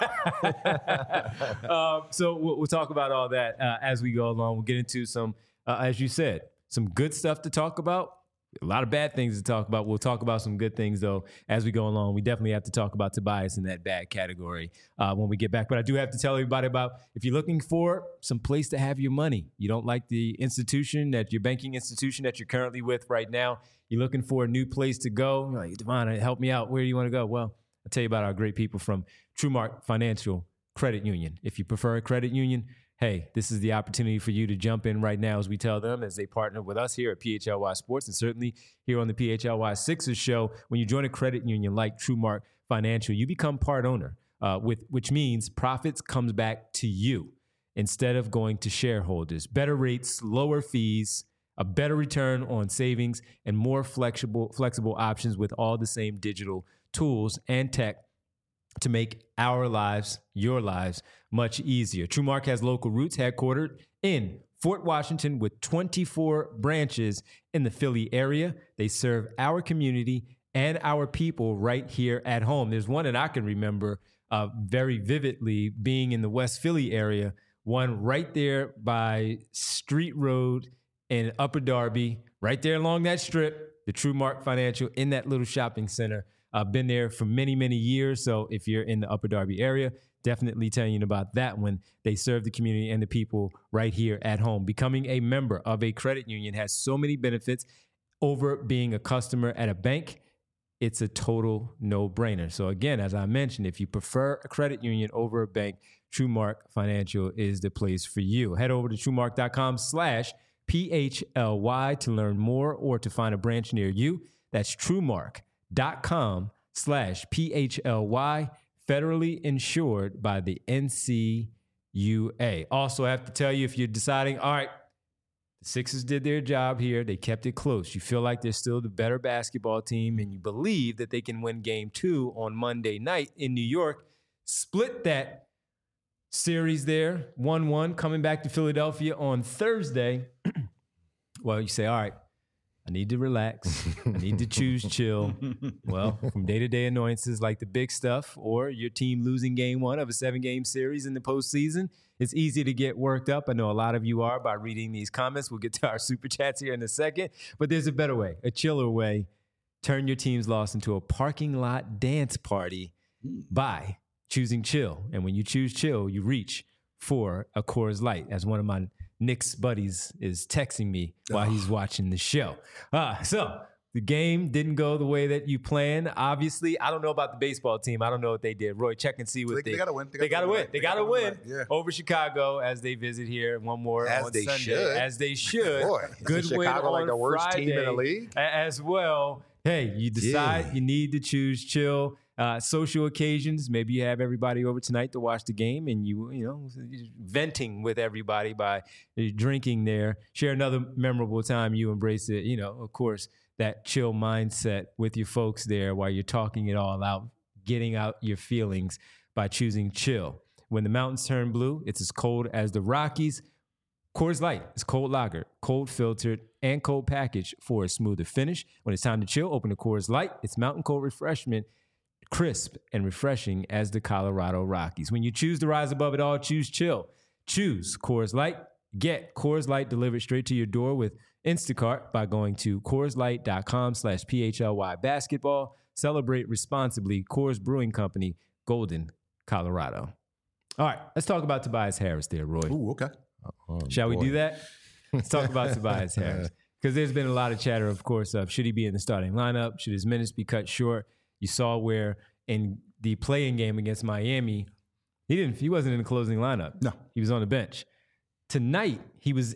um, so we'll, we'll talk about all that uh, as we go along. We'll get into some, uh, as you said, some good stuff to talk about. A lot of bad things to talk about. We'll talk about some good things, though, as we go along. We definitely have to talk about Tobias in that bad category uh, when we get back. But I do have to tell everybody about if you're looking for some place to have your money, you don't like the institution, that your banking institution that you're currently with right now, you're looking for a new place to go. You're like, Devon, help me out. Where do you want to go? Well, I'll tell you about our great people from TrueMark Financial Credit Union. If you prefer a credit union, hey, this is the opportunity for you to jump in right now as we tell them, as they partner with us here at P H L Y Sports and certainly here on the P H L Y Sixers show. When you join a credit union like TrueMark Financial, you become part owner, uh, with which means profits comes back to you instead of going to shareholders. Better rates, lower fees, a better return on savings, and more flexible flexible options with all the same digital tools and tech to make our lives, your lives, much easier. TrueMark has local roots headquartered in Fort Washington with twenty-four branches in the Philly area. They serve our community and our people right here at home. There's one that I can remember uh, very vividly being in the West Philly area, one right there by Street Road in Upper Darby, right there along that strip, the TrueMark Financial in that little shopping center. I've been there for many, many years. So if you're in the Upper Darby area, definitely telling you about that one. They serve the community and the people right here at home. Becoming a member of a credit union has so many benefits over being a customer at a bank. It's a total no-brainer. So again, as I mentioned, if you prefer a credit union over a bank, TrueMark Financial is the place for you. Head over to TrueMark.com slash P-H-L-Y to learn more or to find a branch near you. That's TrueMark.com slash P-H-L-Y, federally insured by the N C U A. Also, I have to tell you, if you're deciding, all right, the Sixers did their job here. They kept it close. You feel like they're still the better basketball team, and you believe that they can win game two on Monday night in New York. Split that series there, one one, coming back to Philadelphia on Thursday. Well, you say, all right, I need to relax. I need to choose chill. Well, from day-to-day annoyances like the big stuff or your team losing game one of a seven-game series in the postseason, it's easy to get worked up. I know a lot of you are by reading these comments. We'll get to our super chats here in a second. But there's a better way, a chiller way. Turn your team's loss into a parking lot dance party by choosing chill. And when you choose chill, you reach for a Coors Light, as one of my Knicks buddies is texting me while he's watching the show. Uh, so the game didn't go the way that you planned. Obviously, I don't know about the baseball team. I don't know what they did. Roy, check and see what they, they, they got to win. They got to win. They got to win yeah. over Chicago as they visit here. One more as on they Sunday. Should. As they should. Boy, good win Chicago on like the worst Friday team in the league as well. Hey, you decide yeah. you need to choose chill. Uh, social occasions, maybe you have everybody over tonight to watch the game and you, you know, venting with everybody by drinking there. Share another memorable time you embrace it. You know, of course, that chill mindset with your folks there while you're talking it all out, getting out your feelings by choosing chill. When the mountains turn blue, it's as cold as the Rockies. Coors Light is cold lager, cold filtered, and cold packaged for a smoother finish. When it's time to chill, open a Coors Light. It's mountain cold refreshment, crisp and refreshing as the Colorado Rockies. When you choose to rise above it all, choose chill. Choose Coors Light. Get Coors Light delivered straight to your door with Instacart by going to CoorsLight.com slash PHLY basketball. Celebrate responsibly. Coors Brewing Company, Golden, Colorado. All right, let's talk about Tobias Harris there, Roy. Ooh, okay. Oh, Shall boy. we do that? Let's talk about Tobias Harris. Because there's been a lot of chatter, of course, of should he be in the starting lineup? Should his minutes be cut short? You saw where in the playing game against Miami, he didn't. He wasn't in the closing lineup. No. He was on the bench. Tonight, he was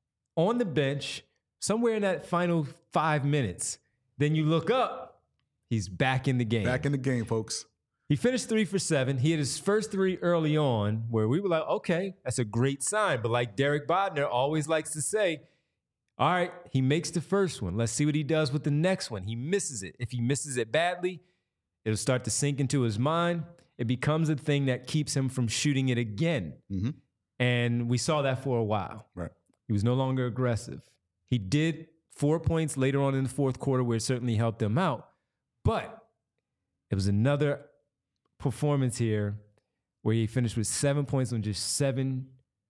on the bench somewhere in that final five minutes. Then you look up, he's back in the game. Back in the game, folks. He finished three for seven. He had his first three early on where we were like, okay, that's a great sign. But like Derek Bodner always likes to say, all right, he makes the first one. Let's see what he does with the next one. He misses it. If he misses it badly, it'll start to sink into his mind. It becomes a thing that keeps him from shooting it again. Mm-hmm. And we saw that for a while. Right. He was no longer aggressive. He did four points later on in the fourth quarter where it certainly helped him out. But it was another performance here where he finished with seven points on just seven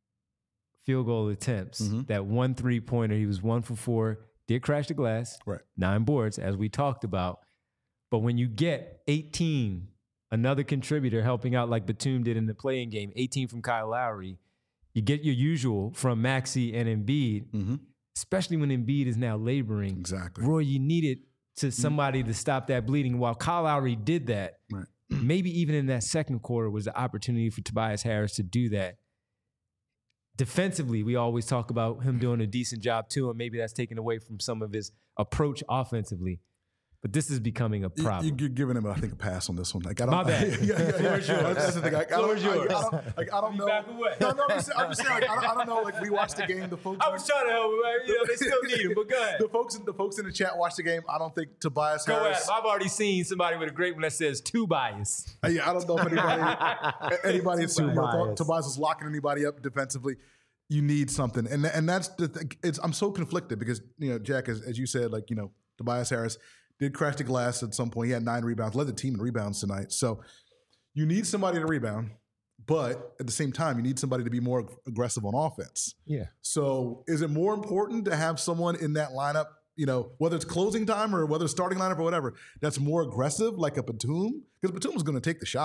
field goal attempts. Mm-hmm. That one three-pointer, he was one for four, did crash the glass, Right. nine boards, as we talked about. But when you get eighteen, another contributor helping out like Batum did in the playing game, eighteen from Kyle Lowry, you get your usual from Maxey and Embiid, Mm-hmm. especially when Embiid is now laboring. Exactly. Roy, you needed to somebody to stop that bleeding. While Kyle Lowry did that, Right. maybe even in that second quarter was the opportunity for Tobias Harris to do that. Defensively, we always talk about him doing a decent job too, and maybe that's taken away from some of his approach offensively. But this is becoming a You- problem. You're giving him, I think, a pass on this one. Like, I don't, My bad. yeah, yeah, yeah. Floor's yours. That's the thing. Like, I don't, Floor's I, I yours. don't, like, I don't know. Back away. No, no, I'm just, I'm just saying. Like, I, don't, I don't know. Like, we watched the game. The folks. I was trying to help him. You know, they still need him, but go ahead. The folks, the folks in the chat watched the game. I don't think Tobias Go Harris. ahead. I've already seen somebody with a great one that says two bias. Uh, yeah, I don't know if anybody, anybody is you know, bias. thought Tobias is locking anybody up defensively. You need something, and and that's the thing. It's I'm so conflicted because you know, Jack, as, as you said, like you know, Tobias Harris did crash the glass at some point. He had nine rebounds, led the team in rebounds tonight. So you need somebody to rebound, but at the same time, you need somebody to be more aggressive on offense. Yeah. So is it more important to have someone in that lineup, you know, whether it's closing time or whether it's starting lineup or whatever, that's more aggressive, like a Batum? Because Batum is going to take the shots.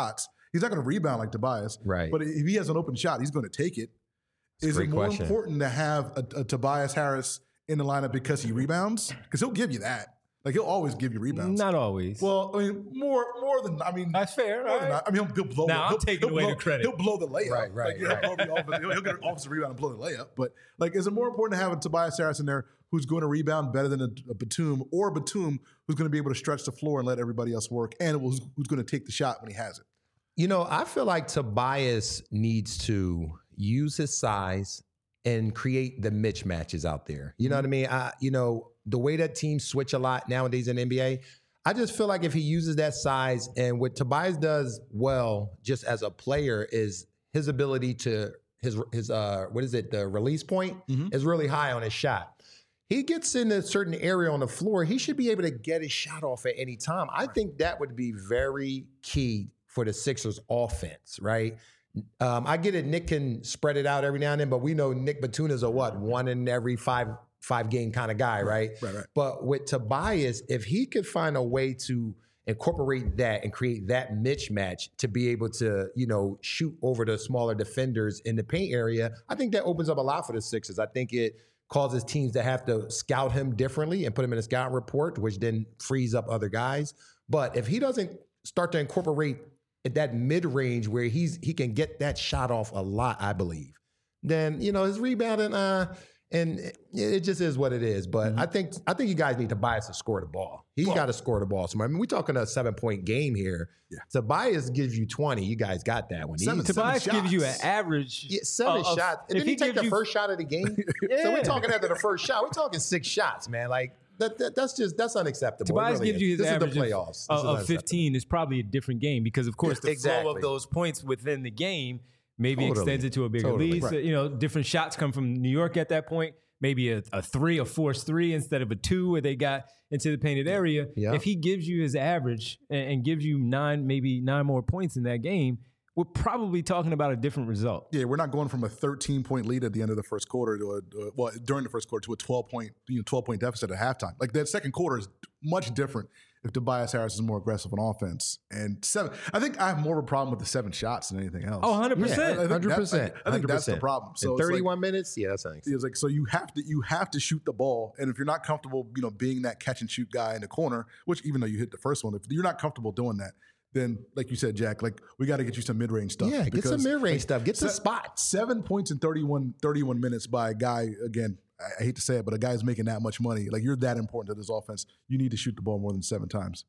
He's not going to rebound like Tobias. Right. But if he has an open shot, he's going to take it. That's Is a it great more question. important to have a, a Tobias Harris in the lineup because he rebounds? Because he'll give you that. Like, he'll always give you rebounds. Not always. Well, I mean, more more than, I mean. That's fair, more than right? that. I mean, he'll, he'll blow Now, I'm he'll, taking he'll away blow, the credit. He'll blow the layup. Right, right, like, you right. know, he'll, be off- he'll, he'll get an offensive rebound and blow the layup. But, like, is it more important to have a Tobias Harris in there who's going to rebound better than a, a Batum, or a Batum who's going to be able to stretch the floor and let everybody else work, and who's, who's going to take the shot when he has it? You know, I feel like Tobias needs to use his size and create the mismatches out there. You know what I mean? I, you know, the way that teams switch a lot nowadays in the N B A, I just feel like if he uses that size, and what Tobias does well just as a player is his ability to, his, his uh, what is it, the release point Mhm. is really high on his shot. He gets in a certain area on the floor, he should be able to get his shot off at any time. I think that would be very key for the Sixers offense, right? Um, I get it. Nick can spread it out every now and then, but we know Nick Batum is a what? One in every five five game kind of guy, right? Right, right. But with Tobias, if he could find a way to incorporate that and create that mismatch to be able to, you know, shoot over the smaller defenders in the paint area, I think that opens up a lot for the Sixers. I think it causes teams to have to scout him differently and put him in a scout report, which then frees up other guys. But if he doesn't start to incorporate at that mid-range where he's he can get that shot off a lot, I believe, then, you know, his rebounding, uh, and it, it just is what it is. But Mm-hmm. I think I think you guys need Tobias to score the ball. He's Well- got to score the ball somewhere. I mean, we're talking a seven-point game here. Yeah. Tobias gives you twenty. You guys got that one. Seven- Easy. Tobias seven gives you an shots. average. Yeah, seven of- of- shots. And if then he, he take gives the you- first shot of the game. So Yeah. we're talking after the first shot. We're talking six shots, man. Like that, that that's just that's unacceptable. It Tobias really gives is. you his this average is the playoffs. This of, is of unacceptable. fifteen is probably a different game because, of course, Yeah, the flow exactly. of those points within the game maybe Totally. extends it to a bigger Totally. lead. Right. So, you know, different shots come from New York at that point. Maybe a, a three, a forced three instead of a two where they got into the painted area. Yeah. If he gives you his average and, and gives you nine, maybe nine more points in that game, we're probably talking about a different result. Yeah, we're not going from a thirteen point lead at the end of the first quarter to a uh, well during the first quarter to a twelve point you know twelve point deficit at halftime. Like that second quarter is much different if Tobias Harris is more aggressive on offense. And seven, I think I have more of a problem with the seven shots than anything else. Oh, one hundred I percent. think that- Hundred percent. I think that's the problem. So in it's like- thirty-one minutes, yeah, that's unacceptable. It's like so you have to you have to shoot the ball, and if you're not comfortable, you know, being that catch and shoot guy in the corner, which even though you hit the first one, if you're not comfortable doing that, then like you said, Jack, like we got to get you some mid range stuff. Yeah, get some because, mid-range like, stuff. Get the se- spots. Seven points in thirty-one, thirty-one minutes by a guy. Again, I, I hate to say it, but a guy's making that much money. Like you're that important to this offense. You need to shoot the ball more than seven times.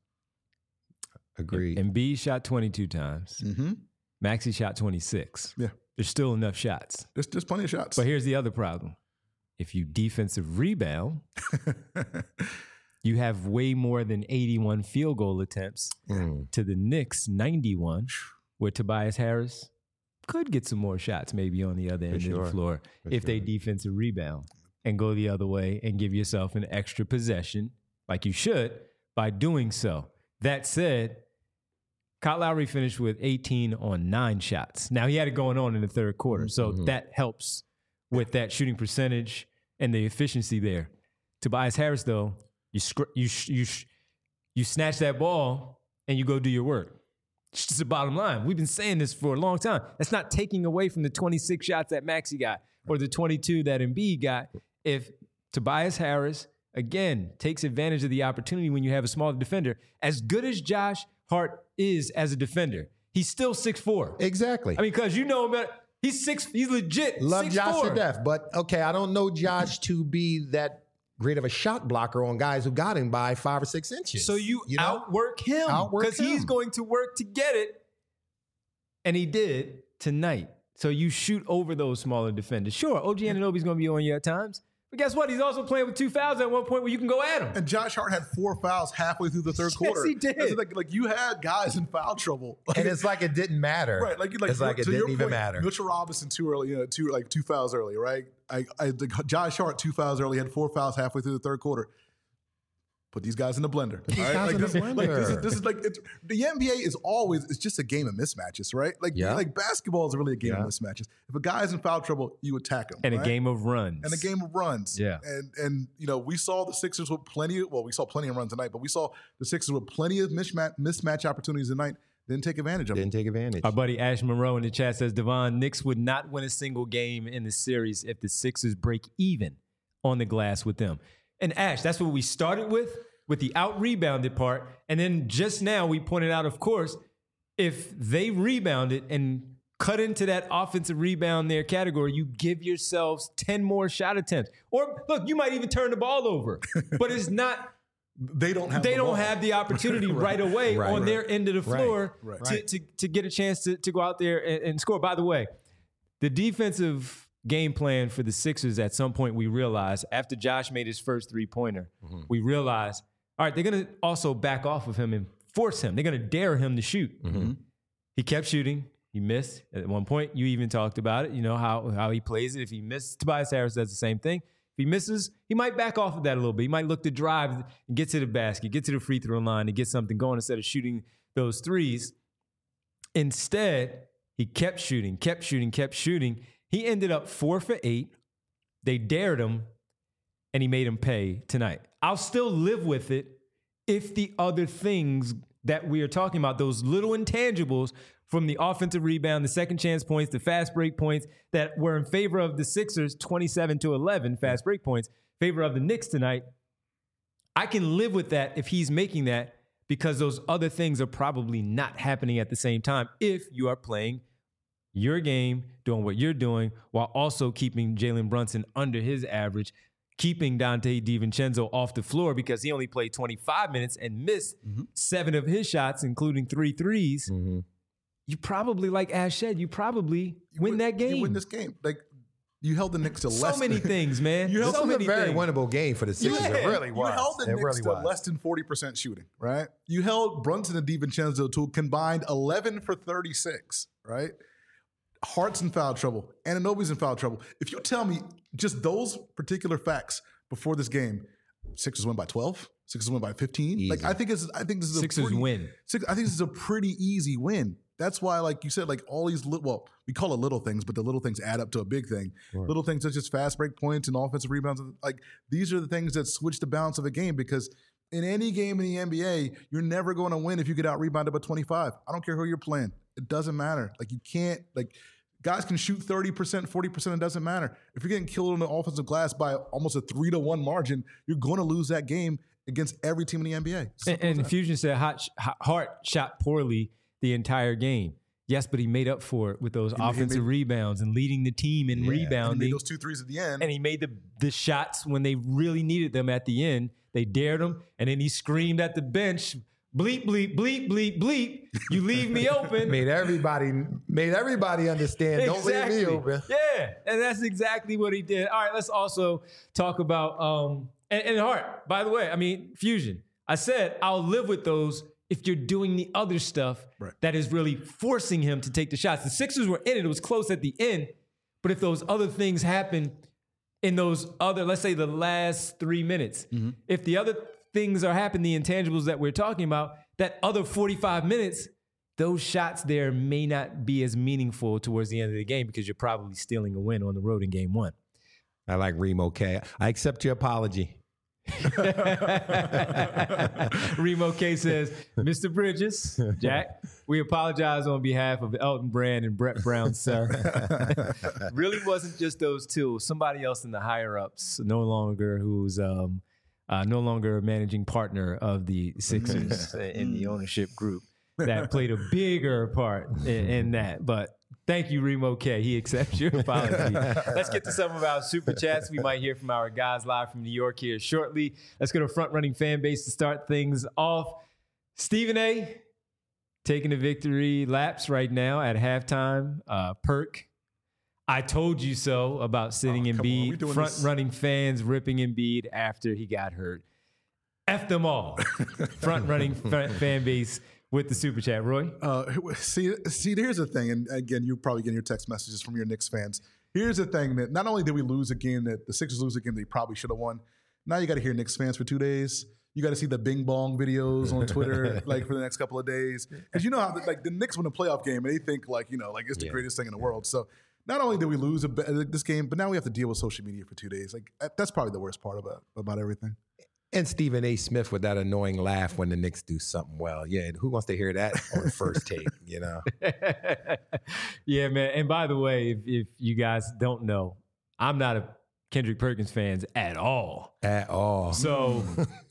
Agreed. And B shot twenty-two times. Mm-hmm. Maxey shot twenty-six. Yeah. There's still enough shots. There's there's plenty of shots. But here's the other problem. If you defensive rebound, you have way more than eighty-one field goal attempts Mm. to the Knicks ninety-one, where Tobias Harris could get some more shots maybe on the other end of sure. the floor For if they sure. defensive rebound and go the other way and give yourself an extra possession like you should by doing so. That said, Kyle Lowry finished with eighteen on nine shots. Now he had it going on in the third quarter, so Mhm. that helps with that shooting percentage and the efficiency there. Tobias Harris, though, you scr- you sh- you sh- you snatch that ball and you go do your work. It's just the bottom line. We've been saying this for a long time. That's not taking away from the twenty-six shots that Maxey got or the twenty-two that Embiid got. If Tobias Harris, again, takes advantage of the opportunity when you have a smaller defender, as good as Josh Hart is as a defender, he's still six foot four. Exactly. I mean, because you know him better. He's six. He's legit. Love six Josh four. to death, but okay, I don't know Josh to be that great of a shot blocker on guys who got him by five or six inches. So you, know? outwork him Outwork because he's him. going to work to get it, and he did tonight. So you shoot over those smaller defenders. Sure, O G Anunoby's going to be on you at times, but guess what? He's also playing with two fouls at one point where you can go at him. And Josh Hart had four fouls halfway through the third Yes, quarter. he did. That's Like, like you had guys in foul trouble. Like, and it's like it didn't matter. right, like, like it's like it to your didn't even point, matter. Mitchell Robinson too early, you know, two like two fouls early, right? I, I like Josh Hart two fouls early, had four fouls halfway through the third quarter. Put these guys in the blender. these all right? guys like in the this, like this is blender. this is like it's, the N B A is always it's just a game of mismatches, right? Like Yeah. like basketball is really a game Yeah. of mismatches. If a guy's in foul trouble, you attack him, And right? a game of runs. and a game of runs. Yeah. And and you know, we saw the Sixers with plenty of well, we saw plenty of runs tonight, but we saw the Sixers with plenty of mismatch mismatch opportunities tonight didn't take advantage of Didn't it. take advantage. Our buddy Ash Monroe in the chat says, Devon, Knicks would not win a single game in the series if the Sixers break even on the glass with them. And Ash, that's what we started with, with the out-rebounded part. And then just now we pointed out, of course, if they rebounded and cut into that offensive rebound there category, you give yourselves ten more shot attempts. Or, look, you might even turn the ball over. But it's not... They don't have they the don't ball. have the opportunity right, right away right, on right. their end of the floor right, right. To, to, to get a chance to, to go out there and, and score. By the way, the defensive game plan for the Sixers at some point we realized after Josh made his first three-pointer, mm-hmm. we realized, all right, they're going to also back off of him and force him. They're going to dare him to shoot. Mm-hmm. He kept shooting. He missed. At one point, you even talked about it, you know, how, how he plays it. If he missed, Tobias Harris does the same thing. If he misses, he might back off of that a little bit. He might look to drive and get to the basket, get to the free throw line and get something going instead of shooting those threes. Instead, he kept shooting, kept shooting, kept shooting. He ended up four for eight. They dared him, and he made him pay tonight. I'll still live with it if the other things that we are talking about, those little intangibles from the offensive rebound, the second chance points, the fast break points that were in favor of the Sixers, twenty-seven to eleven fast break points, favor of the Knicks tonight. I can live with that if he's making that because those other things are probably not happening at the same time if you are playing your game, doing what you're doing, while also keeping Jalen Brunson under his average, keeping Dante DiVincenzo off the floor because he only played twenty-five minutes and missed mm-hmm. seven of his shots, including three threes. Mm-hmm. You probably, like Ash said, you probably you win, win that game. You win this game. Like, you held the Knicks to so less. So many things, man. You held this so was many a very things. winnable game for the Sixers. Yeah. It really was. You held the it Knicks really to was. less than forty percent shooting, right? You held Brunson and DiVincenzo to a combined eleven for thirty-six, right? Hart's in foul trouble. Anunoby's in foul trouble. If you tell me just those particular facts before this game, Sixers win by twelve. Sixers win by fifteen. Easy. Like I think it's I think this is a Sixers pretty, win. Six, I think this is a pretty easy win. That's why, like you said, like all these little, well, we call it little things, but the little things add up to a big thing. Sure. Little things such as fast break points and offensive rebounds. Like these are the things that switch the balance of a game because in any game in the N B A, you're never going to win if you get out rebounded by twenty-five. I don't care who you're playing. It doesn't matter. Like you can't, like guys can shoot thirty percent, forty percent. It doesn't matter. If you're getting killed on the offensive glass by almost a three to one margin, you're going to lose that game against every team in the N B A. And, and Fusion said Hart, Hart shot poorly the entire game. Yes, but he made up for it with those he, offensive he made, rebounds and leading the team in yeah, rebounding. And he made those two threes at the end. And he made the, the shots when they really needed them at the end. They dared him, and then he screamed at the bench, bleep, bleep, bleep, bleep, bleep. You leave me open. made everybody made everybody understand, exactly. Don't leave me open. Yeah, and that's exactly what he did. All right, let's also talk about, um, and, and Hart, by the way, I mean, Fusion. I said I'll live with those if you're doing the other stuff right. that is really forcing him to take the shots. The Sixers were in it. It was close at the end. But if those other things happen in those other, let's say the last three minutes, mm-hmm. if the other things are happening, the intangibles that we're talking about, that other forty-five minutes, those shots there may not be as meaningful towards the end of the game because you're probably stealing a win on the road in game one. I like Remo K. I accept your apology. Remo K says, Mister Bridges, Jack, we apologize on behalf of Elton Brand and Brett Brown, sir. Really wasn't just those two. Somebody else in the higher ups, no longer who's um, uh, no longer a managing partner of the Sixers in the ownership group that played a bigger part in, in that. But thank you, Remo K. He accepts your apology. Let's get to some of our super chats. We might hear from our guys live from New York here shortly. Let's go to front running fan base to start things off. Stephen A. taking the victory laps right now at halftime. Uh, Perk, I told you so about sitting oh, Embiid. Front this? running fans ripping Embiid after he got hurt. F them all. Front running fan base. With the super chat, Roy. Uh, see, see, here's the thing, and again, you're probably getting your text messages from your Knicks fans. Here's the thing that not only did we lose a game that the Sixers lose a game they probably should have won. Now you got to hear Knicks fans for two days. You got to see the Bing Bong videos on Twitter, like for the next couple of days, because you know how like the Knicks win a playoff game and they think like you know like it's the yeah. greatest thing in the world. So not only did we lose a, this game, but now we have to deal with social media for two days. Like that's probably the worst part about about everything. And Stephen A. Smith with that annoying laugh when the Knicks do something well. Yeah, who wants to hear that on the first take, you know? Yeah, man. And by the way, if, if you guys don't know, I'm not a Kendrick Perkins fan at all. At all. So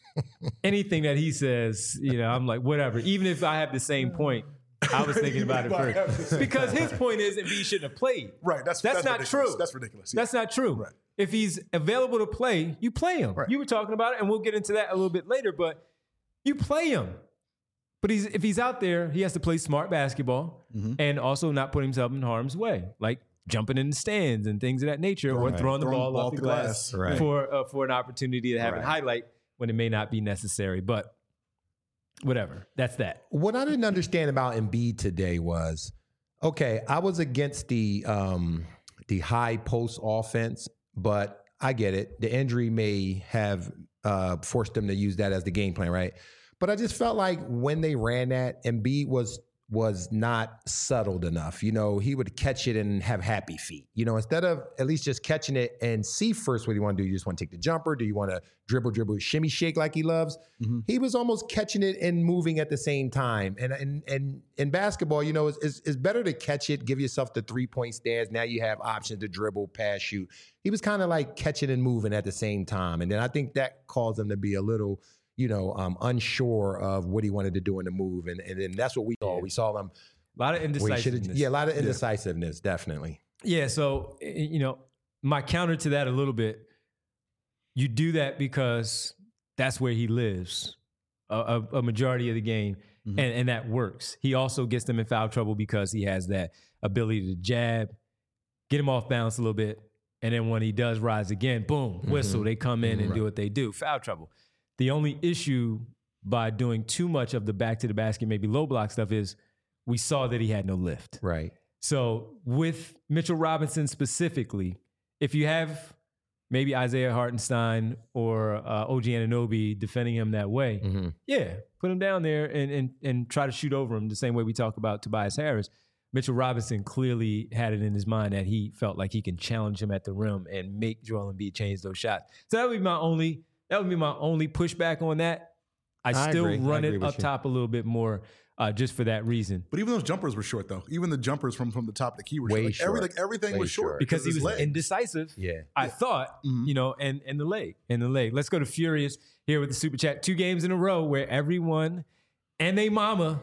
anything that he says, you know, I'm like, whatever. Even if I have the same point, I was thinking about it first. Because his point is Embiid shouldn't have played. Right. That's, that's, that's not ridiculous. true. That's ridiculous. Yeah. That's not true. Right. If he's available to play, you play him. Right. You were talking about it, and we'll get into that a little bit later, but you play him. But he's if he's out there, he has to play smart basketball mm-hmm. and also not put himself in harm's way, like jumping in the stands and things of that nature, right. or throwing the throwing ball, ball off the glass, glass right. for uh, for an opportunity to have right. it highlight when it may not be necessary. But whatever, that's that. What I didn't understand about Embiid today was, okay, I was against the um, the high post offense, but I get it. The injury may have uh, forced them to use that as the game plan, right? But I just felt like when they ran that, Embiid was was not settled enough. You know, he would catch it and have happy feet. You know, instead of at least just catching it and see first what you want to do. You just want to take the jumper. Do you want to dribble, dribble, shimmy, shake like he loves? Mm-hmm. He was almost catching it and moving at the same time. And and and in basketball, you know, it's, it's, it's better to catch it, give yourself the three-point stance. Now you have options to dribble, pass, shoot. He was kind of like catching and moving at the same time. And then I think that caused him to be a little, you know, um, unsure of what he wanted to do in the move. And, and then that's what we saw. Yeah. We saw him. A lot of indecisiveness. Yeah, a lot of indecisiveness, yeah. definitely. Yeah, so, you know, my counter to that a little bit, you do that because that's where he lives a, a, a majority of the game, mm-hmm. and, and that works. He also gets them in foul trouble because he has that ability to jab, get him off balance a little bit, and then when he does rise again, boom, whistle, mm-hmm. they come in mm-hmm. and right. do what they do, foul trouble. The only issue by doing too much of the back to the basket, maybe low block stuff is we saw that he had no lift. Right. So with Mitchell Robinson specifically, if you have maybe Isaiah Hartenstein or uh, O G Anunoby defending him that way, mm-hmm. yeah, put him down there and, and and try to shoot over him the same way we talk about Tobias Harris. Mitchell Robinson clearly had it in his mind that he felt like he can challenge him at the rim and make Joel Embiid change those shots. So that would be my only that would be my only pushback on that. I, I still agree. run I it up you. top a little bit more. Uh, just for that reason. But even those jumpers were short, though. Even the jumpers from, from the top of the key were Way short. Like, short. Every, like, everything Way was short. short. Because he was legs. indecisive, yeah. I yeah. thought, mm-hmm. you know, and, and the leg, and the leg. Let's go to Furious here with the Super Chat. Two games in a row where everyone and they mama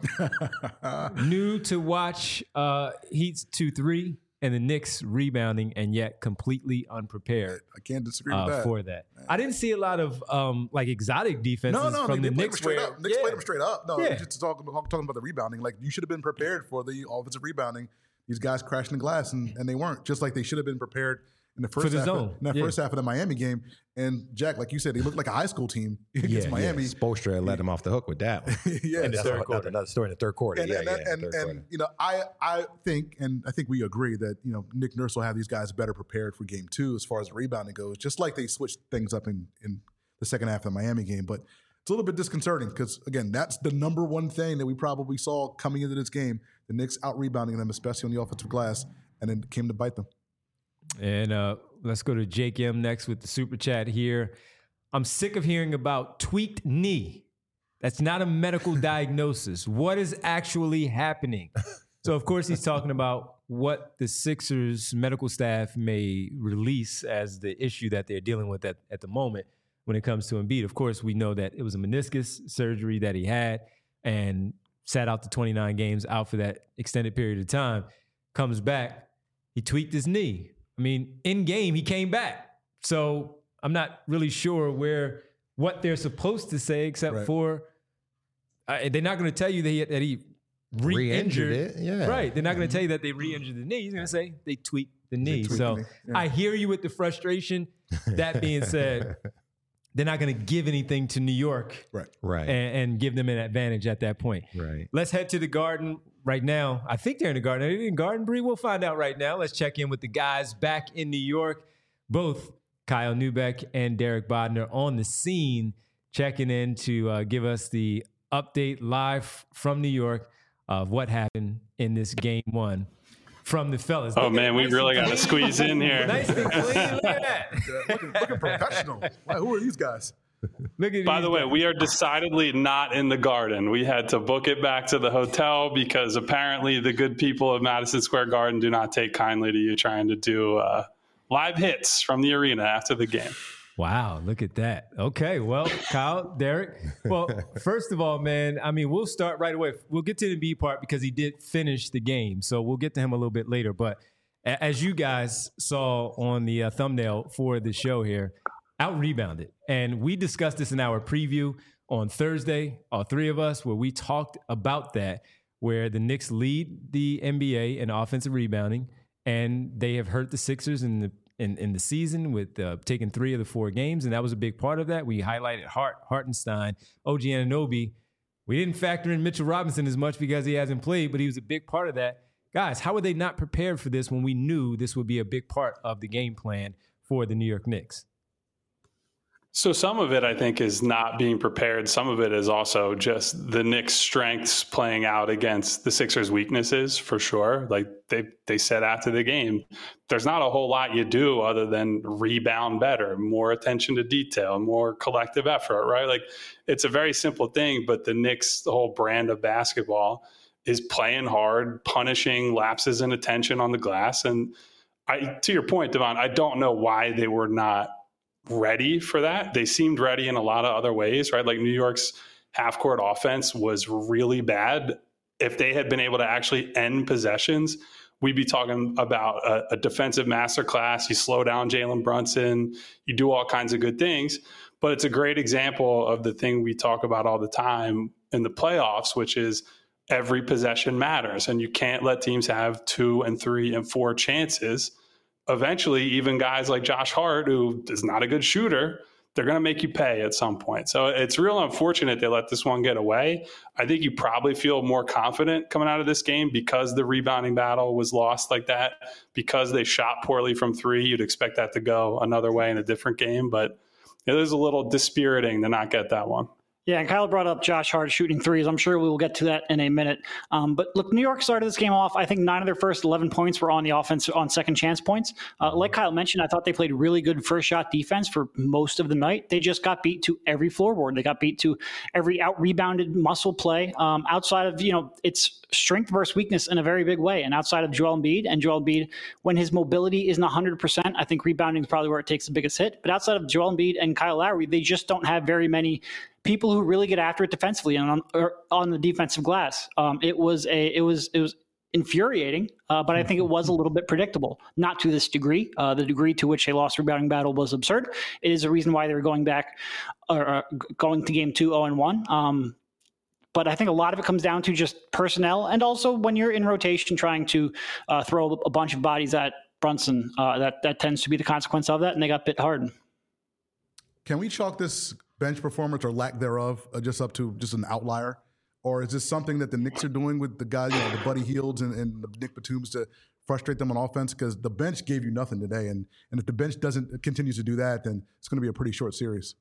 knew to watch uh, Heat's two three and the Knicks rebounding and yet completely unprepared. I can't disagree uh, with that. For that. I didn't see a lot of um, like exotic defenses no, no, from they, the they Knicks. straight Where, up. Knicks yeah. played them straight up. No, yeah. just talking, talking about the rebounding. Like, you should have been prepared for the offensive rebounding. These guys crashing the glass, and, and they weren't. Just like they should have been prepared in the first for the half zone. Of, in that yeah. first half of the Miami game. And Jack, like you said, they looked like a high school team against yeah, Miami. Yeah. Spoelstra let him off the hook with that one. yeah, and that's another, another story in the third quarter. And, yeah, and, yeah, and, third and quarter. you know, I I think, and I think we agree that you know Nick Nurse will have these guys better prepared for game two as far as rebounding goes. Just like they switched things up in in the second half of the Miami game, but it's a little bit disconcerting because again, that's the number one thing that we probably saw coming into this game: the Knicks out rebounding them, especially on the offensive glass, and then it came to bite them. And uh, let's go to Jake M next with the Super Chat here. I'm sick of hearing about tweaked knee. That's not a medical diagnosis. What is actually happening? So, of course, he's talking about what the Sixers medical staff may release as the issue that they're dealing with at, at the moment when it comes to Embiid. Of course, we know that it was a meniscus surgery that he had and sat out the twenty-nine games, out for that extended period of time. Comes back, he tweaked his knee. I mean, in game, he came back. So I'm not really sure where what they're supposed to say, except right. for uh, they're not going to tell you that he, that he re-injured. Re-injured it, yeah. Right. They're not going to tell you that they re-injured the knee. He's going to say they tweaked the knee. So the knee. Yeah. I hear you with the frustration. That being said, they're not going to give anything to New York, right? Right. And, and give them an advantage at that point. Right. Let's head to the Garden right now. I think they're in the Garden. Are they in Garden, Bree? We'll find out right now. Let's check in with the guys back in New York. Both Kyle Neubeck and Derek Bodner on the scene, checking in to uh, give us the update live from New York of what happened in this game one from the fellas. Oh, Look man, we nice really got to clean. squeeze in here. Nice and clean. Look at that. Yeah, looking, looking professional. Wow, who are these guys? Look at By these the way, guys. we are decidedly not in the Garden. We had to book it back to the hotel because apparently the good people of Madison Square Garden do not take kindly to you trying to do uh, live hits from the arena after the game. Wow, look at that. Okay, well, Kyle, Derek. Well, first of all, man, I mean, we'll start right away. We'll get to the B part because he did finish the game. So we'll get to him a little bit later. But a- as you guys saw on the uh, thumbnail for the show here, out-rebounded. And we discussed this in our preview on Thursday, all three of us, where we talked about that, where the Knicks lead the N B A in offensive rebounding, and they have hurt the Sixers in the In, in the season with uh, taking three of the four games, and that was a big part of that. We highlighted Hart, Hartenstein, O G Anunoby. We didn't factor in Mitchell Robinson as much because he hasn't played, but he was a big part of that. Guys, how were they not prepared for this when we knew this would be a big part of the game plan for the New York Knicks? So some of it, I think, is not being prepared. Some of it is also just the Knicks' strengths playing out against the Sixers' weaknesses, for sure. Like they they said after the game, there's not a whole lot you do other than rebound better, more attention to detail, more collective effort, right? Like it's a very simple thing, but the Knicks, the whole brand of basketball, is playing hard, punishing lapses in attention on the glass. And I, to your point, Devon, I don't know why they were not ready for that. They seemed ready in a lot of other ways, right? Like New York's half court offense was really bad. If they had been able to actually end possessions, we'd be talking about a, a defensive masterclass. You slow down Jalen Brunson, you do all kinds of good things, but it's a great example of the thing we talk about all the time in the playoffs, which is every possession matters. And you can't let teams have two and three and four chances. Eventually, even guys like Josh Hart, who is not a good shooter, they're going to make you pay at some point. So it's real unfortunate they let this one get away. I think you probably feel more confident coming out of this game because the rebounding battle was lost like that, because they shot poorly from three. You'd expect that to go another way in a different game, but it is a little dispiriting to not get that one. Yeah, and Kyle brought up Josh Hart shooting threes. I'm sure we will get to that in a minute. Um, but look, New York started this game off. I think nine of their first eleven points were on the offense on second chance points. Uh, like Kyle mentioned, I thought they played really good first shot defense for most of the night. They just got beat to every floorboard. They got beat to every out rebounded muscle play. Um, outside of, you know, it's strength versus weakness in a very big way. And outside of Joel Embiid, and Joel Embiid, when his mobility isn't one hundred percent, I think rebounding is probably where it takes the biggest hit. But outside of Joel Embiid and Kyle Lowry, they just don't have very many people who really get after it defensively and on, or on the defensive glass. Um, it was a, it was, it was infuriating, uh, but I think it was a little bit predictable. Not to this degree. Uh, the degree to which they lost rebounding battle was absurd. It is a reason why they were going back or uh, going to game two, oh and one. Um, But I think a lot of it comes down to just personnel, and also when you're in rotation trying to uh, throw a bunch of bodies at Brunson, uh, that that tends to be the consequence of that, and they got bit hard. Can we chalk this bench performance or lack thereof uh, just up to just an outlier? Or is this something that the Knicks are doing with the guys, you know, the Buddy Hields and, and the Nick Batums to frustrate them on offense? Because the bench gave you nothing today. And, and if the bench doesn't continues to do that, then it's going to be a pretty short series.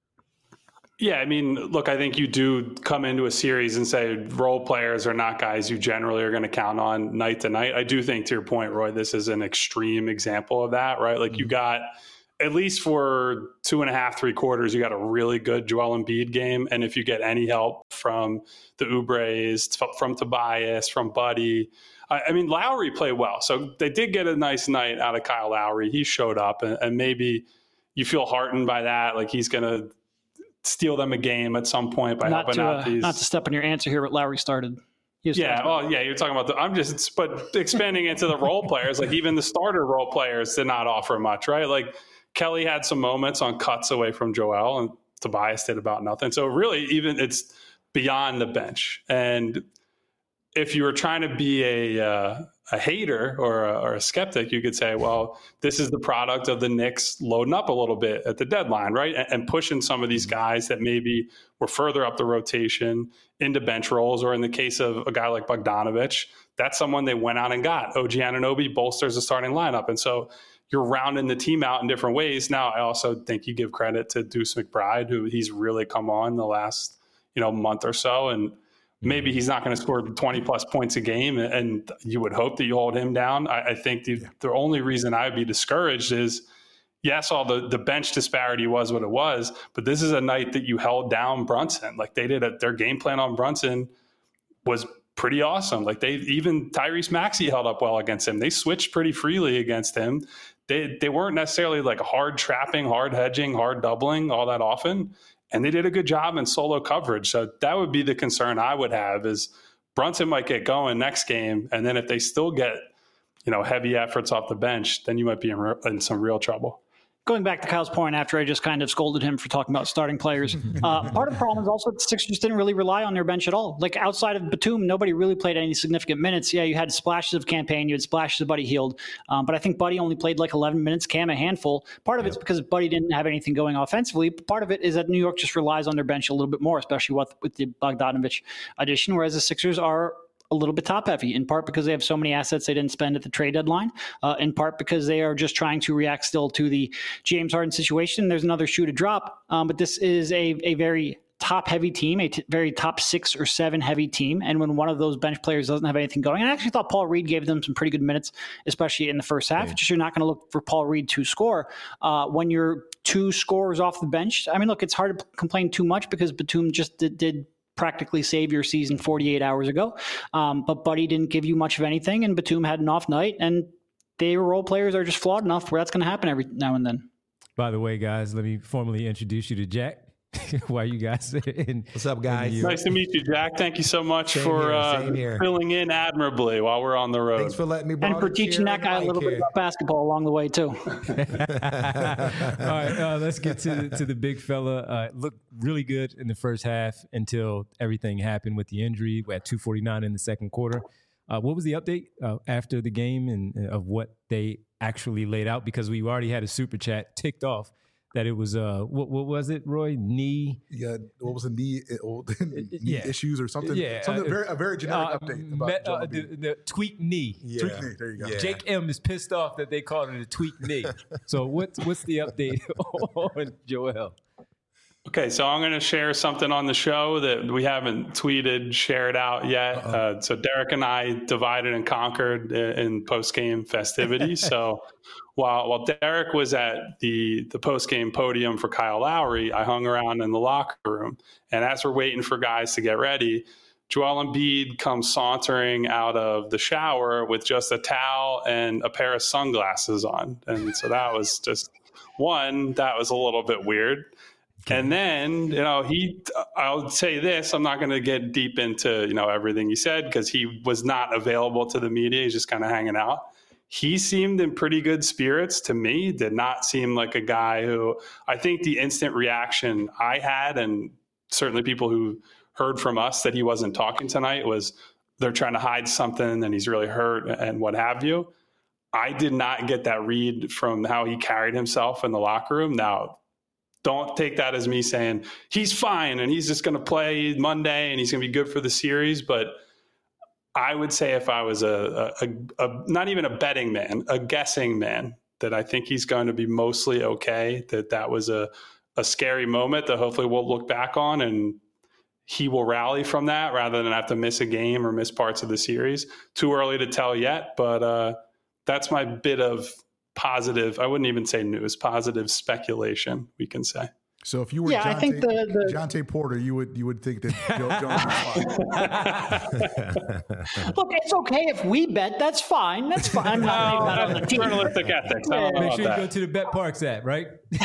Yeah, I mean, look, I think you do come into a series and say role players are not guys you generally are going to count on night to night. I do think, to your point, Roy, this is an extreme example of that, right? Like you got, at least for two and a half, three quarters, you got a really good Joel Embiid game. And if you get any help from the Oubres, from Tobias, from Buddy, I, I mean, Lowry played well. So they did get a nice night out of Kyle Lowry. He showed up, and, and maybe you feel heartened by that. Like he's going to steal them a game at some point by not helping to, out uh, these. Not to step on your answer here, but Lowry started. Yeah, well, yeah, you're talking about the. I'm just, but expanding into the role players, like even the starter role players did not offer much, right? Like Kelly had some moments on cuts away from Joel, and Tobias did about nothing. So really, even it's beyond the bench. And if you were trying to be a uh, a hater or a, or a skeptic, you could say, well, this is the product of the Knicks loading up a little bit at the deadline, right? And, and pushing some of these guys that maybe were further up the rotation into bench roles, or in the case of a guy like Bogdanovich, that's someone they went out and got. O G Anunoby bolsters the starting lineup. And so you're rounding the team out in different ways. Now, I also think you give credit to Deuce McBride, who he's really come on the last, you know, month or so. And maybe he's not going to score twenty plus points a game, and you would hope that you hold him down. I, I think the, yeah. the only reason I'd be discouraged is yes, all the, the bench disparity was what it was, but this is a night that you held down Brunson. Like they did a, their game plan on Brunson was pretty awesome. Like they, even Tyrese Maxey held up well against him. They switched pretty freely against him. They, they weren't necessarily like hard trapping, hard hedging, hard doubling all that often. And they did a good job in solo coverage. So that would be the concern I would have is Brunson might get going next game. And then if they still get, you know, heavy efforts off the bench, then you might be in, re- in some real trouble. Going back to Kyle's point after I just kind of scolded him for talking about starting players, uh, part of the problem is also the Sixers didn't really rely on their bench at all. Like outside of Batum, nobody really played any significant minutes. Yeah, you had splashes of Campaign, you had splashes of Buddy Hield, um, but I think Buddy only played like eleven minutes, Cam a handful. Part of yeah. it's because Buddy didn't have anything going offensively. But part of it is that New York just relies on their bench a little bit more, especially with, with the Bogdanovich addition, whereas the Sixers are a little bit top heavy, in part because they have so many assets they didn't spend at the trade deadline, uh, in part because they are just trying to react still to the James Harden situation. There's another shoe to drop, um, but this is a, a very top heavy team, a t- very top six or seven heavy team. And when one of those bench players doesn't have anything going, and I actually thought Paul Reed gave them some pretty good minutes, especially in the first half. Yeah. Just you're not going to look for Paul Reed to score. Uh, when you're two scorers off the bench, I mean, look, it's hard to complain too much because Batum just did, did practically save your season forty-eight hours ago. Um, but Buddy didn't give you much of anything, and Batum had an off night, and their role players are just flawed enough where that's going to happen every now and then. By the way, guys, let me formally introduce you to Jack. Why you guys in, what's up, guys? Nice to meet you, Jack. Thank you so much same for here, uh, filling in admirably while we're on the road. Thanks for letting me borrow and for teaching that guy a little here. bit about basketball along the way too. All right, uh, let's get to to the big fella. Uh, looked really good in the first half until everything happened with the injury. We had two forty-nine in the second quarter. Uh, what was the update uh, after the game and uh, of what they actually laid out? Because we already had a super chat ticked off that it was uh what what was it, Roy? Knee? Yeah, what was a knee, knee yeah. issues or something? Yeah, something uh, very a very generic uh, update about met, uh, the, the tweak knee. Yeah. Tweak knee. There you go. Yeah. Jake M is pissed off that they called it a tweak knee. So what's what's the update on Joel? Okay, so I'm going to share something on the show that we haven't tweeted, shared out yet. Uh, so Derek and I divided and conquered in, in post-game festivities. So while while Derek was at the, the post-game podium for Kyle Lowry, I hung around in the locker room. And as we're waiting for guys to get ready, Joel Embiid comes sauntering out of the shower with just a towel and a pair of sunglasses on. And so that was just, one, that was a little bit weird. And then, you know, he, I'll say this, I'm not going to get deep into, you know, everything he said because he was not available to the media. He's just kind of hanging out. He seemed in pretty good spirits to me, did not seem like a guy who, I think the instant reaction I had, and certainly people who heard from us that he wasn't talking tonight, was they're trying to hide something and he's really hurt and what have you. I did not get that read from how he carried himself in the locker room. Now, don't take that as me saying he's fine and he's just going to play Monday and he's going to be good for the series. But I would say if I was a, a, a, a not even a betting man, a guessing man, that I think he's going to be mostly okay, that that was a, a scary moment that hopefully we'll look back on and he will rally from that rather than have to miss a game or miss parts of the series. Too early to tell yet, but uh, that's my bit of positive, I wouldn't even say news, positive speculation, we can say. So if you were yeah, Jonte, I think the, the Jonte Porter, you would you would think that Joe Jones was fine. Look, it's okay if we bet. That's fine. That's fine. I'm not no, that on the team. Journalistic ethics. I don't know Make sure you that. go to the Bet Parks app, right?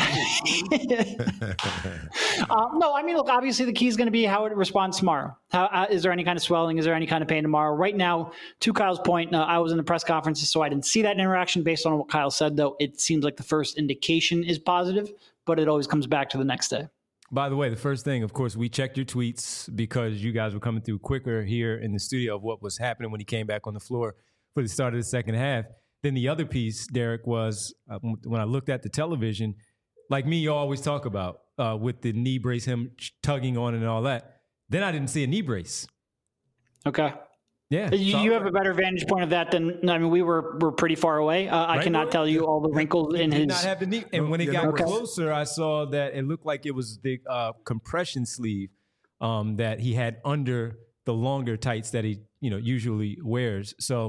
uh, no, I mean, look, obviously the key is going to be how it responds tomorrow. How, uh, is there any kind of swelling? Is there any kind of pain tomorrow? Right now, to Kyle's point, uh, I was in the press conferences, so I didn't see that interaction. Based on what Kyle said, though, it seems like the first indication is positive, but it always comes back to the next day. By the way, the first thing, of course, we checked your tweets because you guys were coming through quicker here in the studio of what was happening when he came back on the floor for the start of the second half. Then the other piece, Derek, was uh, when I looked at the television, like me, you always talk about uh, with the knee brace, him tugging on and all that. Then I didn't see a knee brace. Okay. Yeah. You, so you have a better vantage point of that than, I mean, we were were pretty far away. Uh, I right, cannot Roy? tell you all the wrinkles he in did his. Not have the knee. And when it yeah, got okay. closer, I saw that it looked like it was the uh, compression sleeve um, that he had under the longer tights that he, you know, usually wears. So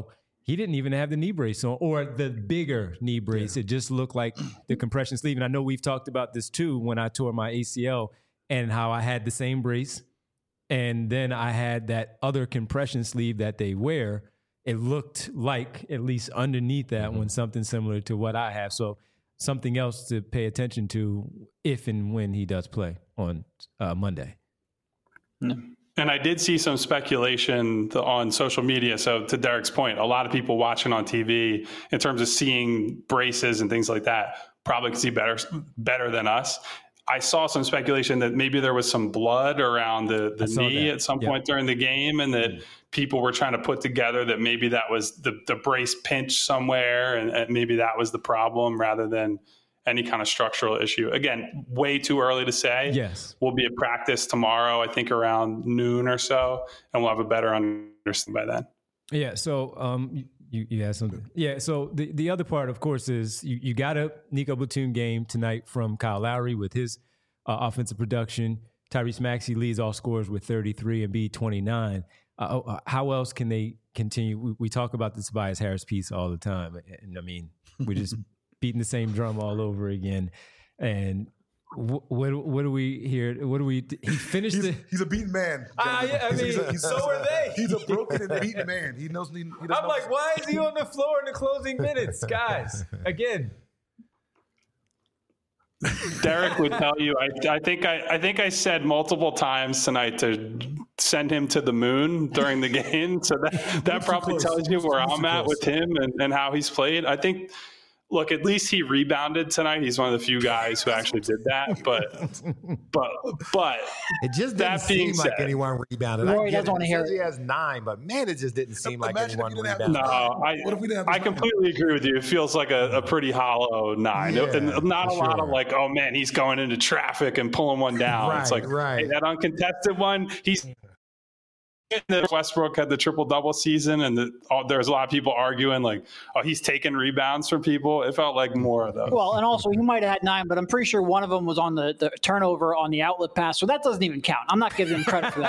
he didn't even have the knee brace on, or the bigger knee brace. Yeah. It just looked like the compression sleeve. And I know we've talked about this too when I tore my A C L and how I had the same brace. And then I had that other compression sleeve that they wear. It looked like, at least underneath that mm-hmm. one, something similar to what I have. So something else to pay attention to if and when he does play on uh, Monday. Mm-hmm. And I did see some speculation on social media. So to Derek's point, a lot of people watching on T V in terms of seeing braces and things like that probably could see better better than us. I saw some speculation that maybe there was some blood around the, the knee at some yep. point during the game, and that people were trying to put together that maybe that was the, the brace pinch somewhere, and, and maybe that was the problem rather than any kind of structural issue. Again, way too early to say. Yes. We'll be at practice tomorrow, I think around noon or so, and we'll have a better understanding by then. Yeah. So um, you, you had something. Yeah. So the, the other part, of course, is you, you got a Nico Batum game tonight from Kyle Lowry with his uh, offensive production. Tyrese Maxey leads all scorers with thirty-three and Embiid twenty-nine. Uh, how else can they continue? We, we talk about the Tobias Harris piece all the time. And I mean, we just beating the same drum all over again. And what what, what do we hear? What do we? He finished. He's, the, he's a beaten man. Uh, yeah, I mean, he's a, he's so are they. He's a broken and beaten man. He knows. He, he I'm know. like, why is he on the floor in the closing minutes, guys? Again. Derek would tell you. I, I think I, I think I said multiple times tonight to send him to the moon during the game. So that that probably tells you where I'm at with him and, and how he's played. I think. Look, at least he rebounded tonight. He's one of the few guys who actually did that. But, but, but it just didn't seem like said, anyone rebounded. Roy doesn't want to hear it. He has nine, but man, it just didn't seem like anyone rebounded. No, I, what if we didn't have I completely agree with you. It feels like a, a pretty hollow nine. Yeah, and not a sure. lot of like, oh man, he's going into traffic and pulling one down. Right, it's like right. Hey, that uncontested one, he's. Westbrook had the triple-double season, and the, oh, there was a lot of people arguing, like, oh, he's taking rebounds from people. It felt like more of those. Well, and also, he might have had nine, but I'm pretty sure one of them was on the, the turnover on the outlet pass, so that doesn't even count. I'm not giving him credit for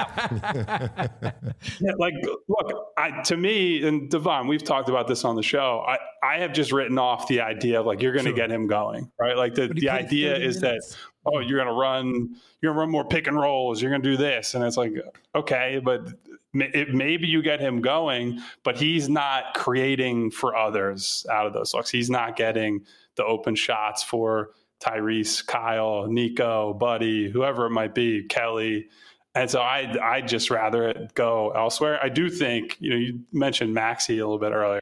that. yeah, like, look, I, to me, and Devon, we've talked about this on the show, I, I have just written off the idea of, like, you're going to sure. get him going, right? Like, the, the idea is minutes? that, oh, you're going to run, you're going to run more pick and rolls, you're going to do this. And it's like, okay, but it, maybe you get him going, but he's not creating for others out of those looks. He's not getting the open shots for Tyrese, Kyle, Nico, Buddy, whoever it might be, Kelly. And so I I just rather it go elsewhere. I do think, you know, you mentioned Maxey a little bit earlier.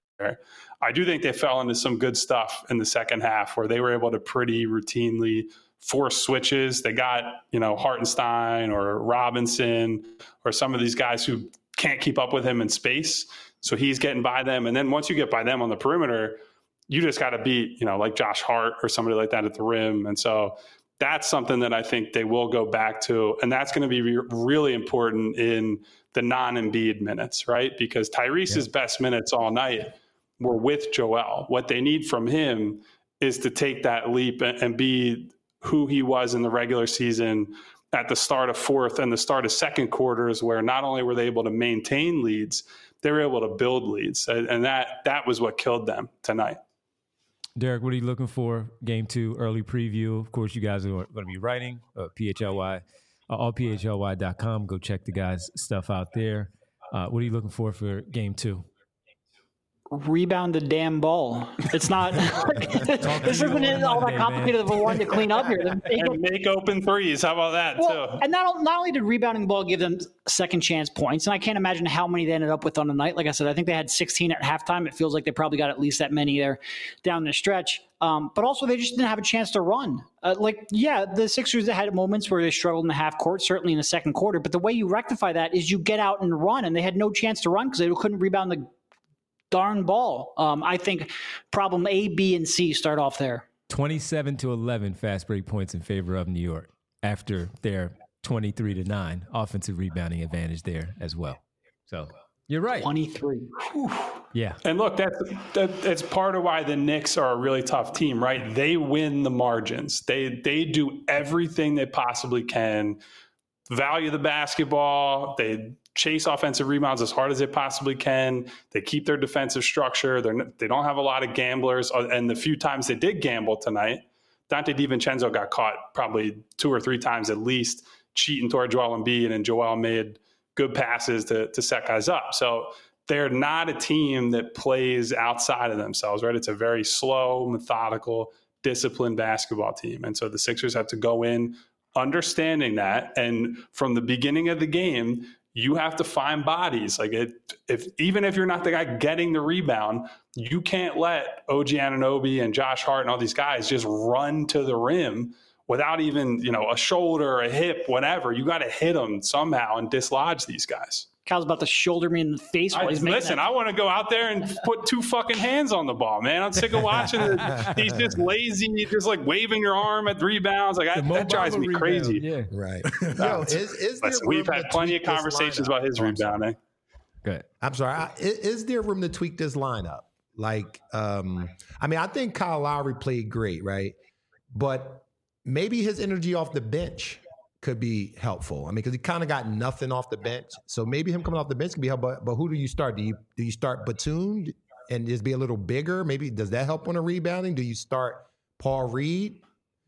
I do think they fell into some good stuff in the second half where they were able to pretty routinely force switches. They got, you know, Hartenstein or Robinson or some of these guys who can't keep up with him in space. So he's getting by them. And then once you get by them on the perimeter, you just got to beat, you know, like Josh Hart or somebody like that at the rim. And so that's something that I think they will go back to. And that's going to be re- really important in the non-Embiid minutes, right? Because Tyrese's yeah. best minutes all night were with Joel. What they need from him is to take that leap and, and be who he was in the regular season at the start of fourth and the start of second quarters, where not only were they able to maintain leads, they were able to build leads. And that that was what killed them tonight. Derek, what are you looking for? Game two, early preview. Of course, you guys are going to be writing uh, P H L Y, uh, all P H L Y dot com. Go check the guys' stuff out there. Uh, what are you looking for for game two? Rebound the damn ball. It's not. This isn't all that complicated of a one to clean up here. And make open threes. How about that well, too? And not not only did rebounding the ball give them second chance points, and I can't imagine how many they ended up with on the night. Like I said, I think they had sixteen at halftime. It feels like they probably got at least that many there down the stretch. Um, but also, they just didn't have a chance to run. Uh, like, yeah, the Sixers had moments where they struggled in the half court, certainly in the second quarter. But the way you rectify that is you get out and run, and they had no chance to run because they couldn't rebound the darn ball. Um, I think problem A, B, and C start off there. twenty-seven to eleven fast break points in favor of New York after their twenty-three to nine offensive rebounding advantage there as well. So you're right. twenty-three. Whew. Yeah. And look, that's, that, that's part of why the Knicks are a really tough team, right? They win the margins. They, they do everything they possibly can, value the basketball. They chase offensive rebounds as hard as they possibly can. They keep their defensive structure. They're, they don't have a lot of gamblers. And the few times they did gamble tonight, Dante DiVincenzo got caught probably two or three times at least, cheating toward Joel Embiid, and Joel made good passes to, to set guys up. So they're not a team that plays outside of themselves, right? It's a very slow, methodical, disciplined basketball team. And so the Sixers have to go in understanding that. And from the beginning of the game, you have to find bodies. Like it, if even if you're not the guy getting the rebound, you can't let O G Anunoby and Josh Hart and all these guys just run to the rim without even, you know, a shoulder, a hip, whatever. You got to hit them somehow and dislodge these guys. Kyle's about to shoulder me in the face while I, he's making listen, that. I want to go out there and put two fucking hands on the ball, man. I'm sick of watching it. He's just lazy, just like waving your arm at rebounds. Like I, that drives me rebound, crazy. Yeah. Right. Yo, is, is there Listen, we've room had to plenty tweak of this conversations lineup? about his Oh, I'm sorry. rebounding. Good. I'm sorry. I, is, is there room to tweak this lineup? Like, um, I mean, I think Kyle Lowry played great, right? But maybe his energy off the bench could be helpful. I mean, because he kind of got nothing off the bench, so maybe him coming off the bench could be helpful. But, but who do you start? Do you do you start Batum and just be a little bigger? Maybe does that help on the rebounding? Do you start Paul Reed?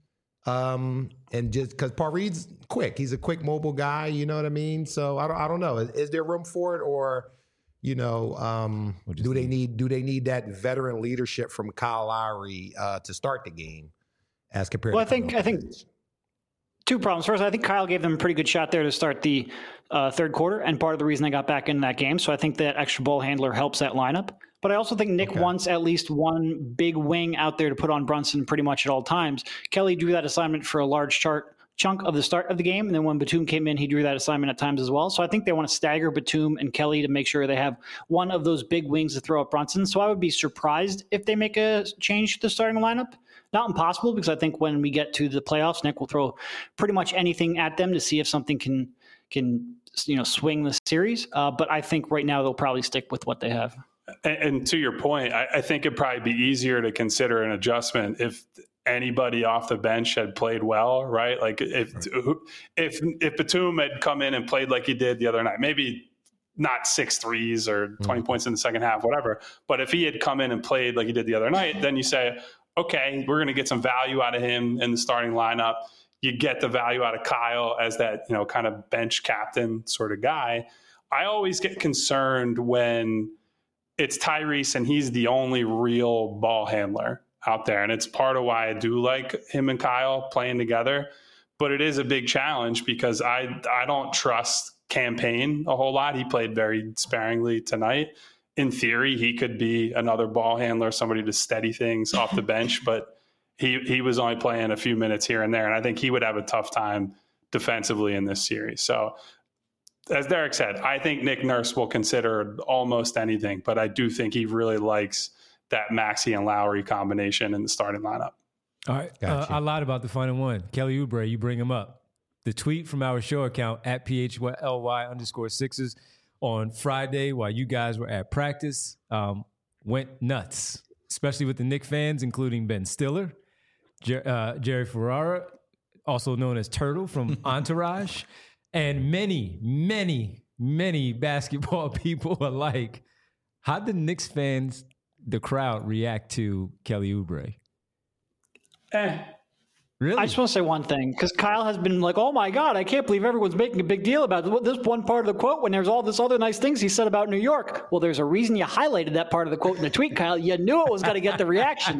Um, and just because Paul Reed's quick, he's a quick mobile guy. You know what I mean? So I don't I don't know. Is, is there room for it, or you know, um, do they need do they need that veteran leadership from Kyle Lowry uh, to start the game as compared? Well, to I think I think. Two problems. First, I think Kyle gave them a pretty good shot there to start the uh, third quarter, and part of the reason they got back in that game. So I think that extra ball handler helps that lineup. But I also think Nick Okay. wants at least one big wing out there to put on Brunson pretty much at all times. Kelly drew that assignment for a large chart chunk of the start of the game, and then when Batum came in, he drew that assignment at times as well. So I think they want to stagger Batum and Kelly to make sure they have one of those big wings to throw at Brunson. So I would be surprised if they make a change to the starting lineup. Not impossible, because I think when we get to the playoffs, Nick will throw pretty much anything at them to see if something can can you know swing the series. Uh, but I think right now they'll probably stick with what they have. And, and to your point, I, I think it'd probably be easier to consider an adjustment if anybody off the bench had played well, right? Like if right. if if Batum had come in and played like he did the other night, maybe not six threes or twenty mm-hmm. points in the second half, whatever. But if he had come in and played like he did the other night, then you say, okay, we're going to get some value out of him in the starting lineup. You get the value out of Kyle as that, you know, kind of bench captain sort of guy. I always get concerned when it's Tyrese and he's the only real ball handler out there. And it's part of why I do like him and Kyle playing together. But it is a big challenge because I I don't trust Campaign a whole lot. He played very sparingly tonight. In theory, he could be another ball handler, somebody to steady things off the bench, but he he was only playing a few minutes here and there, and I think he would have a tough time defensively in this series. So, as Derek said, I think Nick Nurse will consider almost anything, but I do think he really likes that Maxey and Lowry combination in the starting lineup. All right, uh, I lied about the final one. Kelly Oubre, you bring him up. The tweet from our show account at P H L Y underscore Sixers on Friday while you guys were at practice um, went nuts, especially with the Knicks fans, including Ben Stiller, Jer- uh, Jerry Ferrara, also known as Turtle from Entourage, and many, many, many basketball people are like, how did Knicks fans, the crowd, react to Kelly Oubre? Eh. Really? I just want to say one thing, because Kyle has been like, oh my God, I can't believe everyone's making a big deal about this one part of the quote when there's all this other nice things he said about New York. Well, there's a reason you highlighted that part of the quote in the tweet, Kyle. You knew it was going to get the reaction.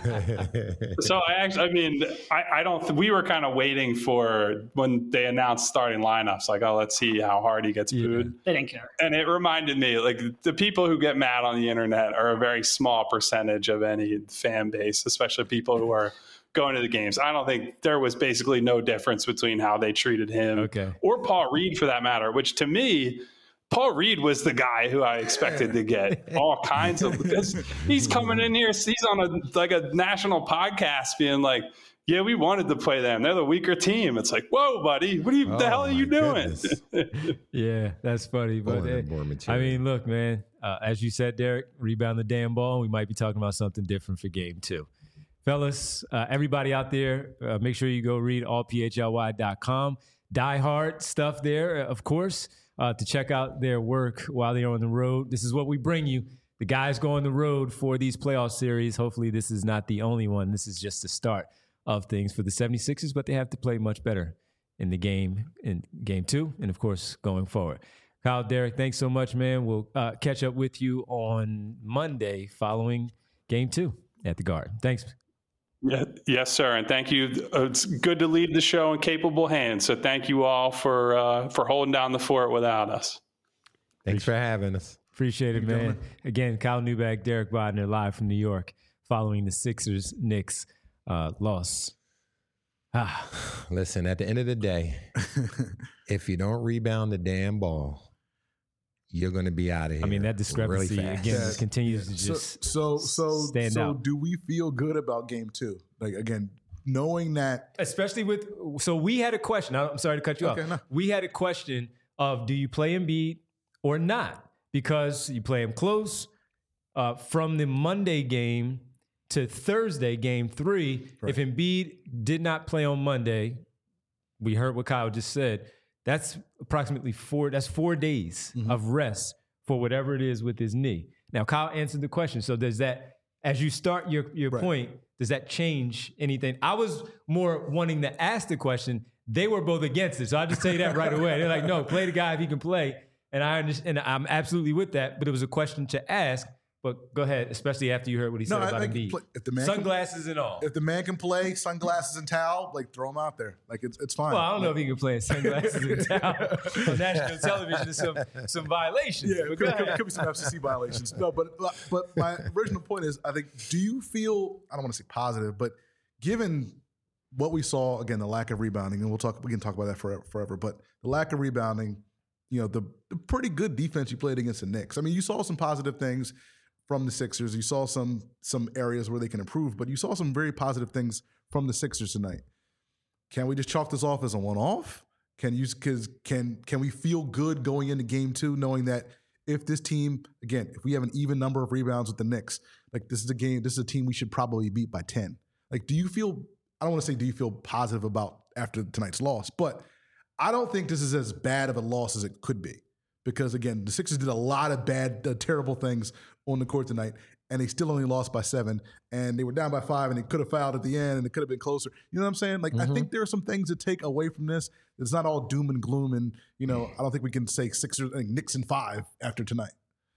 So I actually, I mean, I, I don't, th- we were kind of waiting for when they announced starting lineups, like, oh, let's see how hard he gets booed. Yeah. They didn't care. And it reminded me, like, the people who get mad on the internet are a very small percentage of any fan base, especially people who are going to the games. I don't think there was basically no difference between how they treated him okay. or Paul Reed for that matter, which to me, Paul Reed was the guy who I expected to get all kinds of, because he's coming in here, he's on a like a national podcast being like, yeah, we wanted to play them. They're the weaker team. It's like, whoa, buddy, what are you, oh, the hell are you doing? Yeah, that's funny. But hey, I mean, look, man, uh, as you said, Derek, rebound the damn ball. We might be talking about something different for game two. Fellas, uh, everybody out there, uh, make sure you go read all P H L Y dot com. Die Hard stuff there, of course. uh, to check out their work while they're on the road. This is what we bring you. The guys go on the road for these playoff series. Hopefully this is not the only one. This is just the start of things for the seventy-sixers, but they have to play much better in the game, in game two, and of course, going forward. Kyle, Derek, thanks so much, man. We'll uh, catch up with you on Monday following game two at the Garden. Thanks. Yeah, yes, sir. And thank you. It's good to leave the show in capable hands. So thank you all for uh, for holding down the fort without us. Thanks for having us. Appreciate it, man. Again, Kyle Neubeck, Derek Bodner, live from New York, following the Sixers Knicks uh, loss. Ah. Listen, at the end of the day, if you don't rebound the damn ball, you're going to be out of here. I mean, that discrepancy really again Yeah. continues to just so so stand so out. do we feel good about game two? Like again, knowing that Especially with, so we had a question. I'm sorry to cut you Okay, off. no. We had a question of, do you play Embiid or not? Because you play him close uh, from the Monday game to Thursday, game three. Right. If Embiid did not play on Monday, we heard what Kyle just said. That's approximately four, that's four days Mm-hmm. of rest for whatever it is with his knee. Now, Kyle answered the question. So does that, as you start your, your Right. point, does that change anything? I was more wanting to ask the question. They were both against it. So I'll just tell you that right away. They're like, no, play the guy if he can play. And I understand, and I'm absolutely with that, but it was a question to ask. But go ahead, especially after you heard what he said No, I about think Embiid. play- if the man can- Sunglasses and all. if the man can play, sunglasses and towel, like throw him out there. Like it's it's fine. Well, I don't know if he can play in sunglasses and towel on national television. There's some some violations. Yeah, But it go could, could, ahead. could be some F C C violations. No, but but my original point is, I think, do you feel? I don't want to say positive, but given what we saw again, the lack of rebounding, and we'll talk. We can talk about that forever. forever but the lack of rebounding, you know, the, the pretty good defense you played against the Knicks. I mean, you saw some positive things from the Sixers. You saw some some areas where they can improve, but you saw some very positive things from the Sixers tonight. Can we just chalk this off as a one-off? Can you cause can can we feel good going into game two, knowing that if this team, again, if we have an even number of rebounds with the Knicks, like this is a game, this is a team we should probably beat by ten. Like, do you feel, I don't want to say do you feel positive about after tonight's loss, but I don't think this is as bad of a loss as it could be. Because again, the Sixers did a lot of bad, uh, terrible things on the court tonight, and they still only lost by seven, and they were down by five, and they could have fouled at the end, and it could have been closer. You know what I'm saying? Like, Mm-hmm. I think there are some things to take away from this. It's not all doom and gloom, and you know, I don't think we can say Sixers, like Knicks in five after tonight.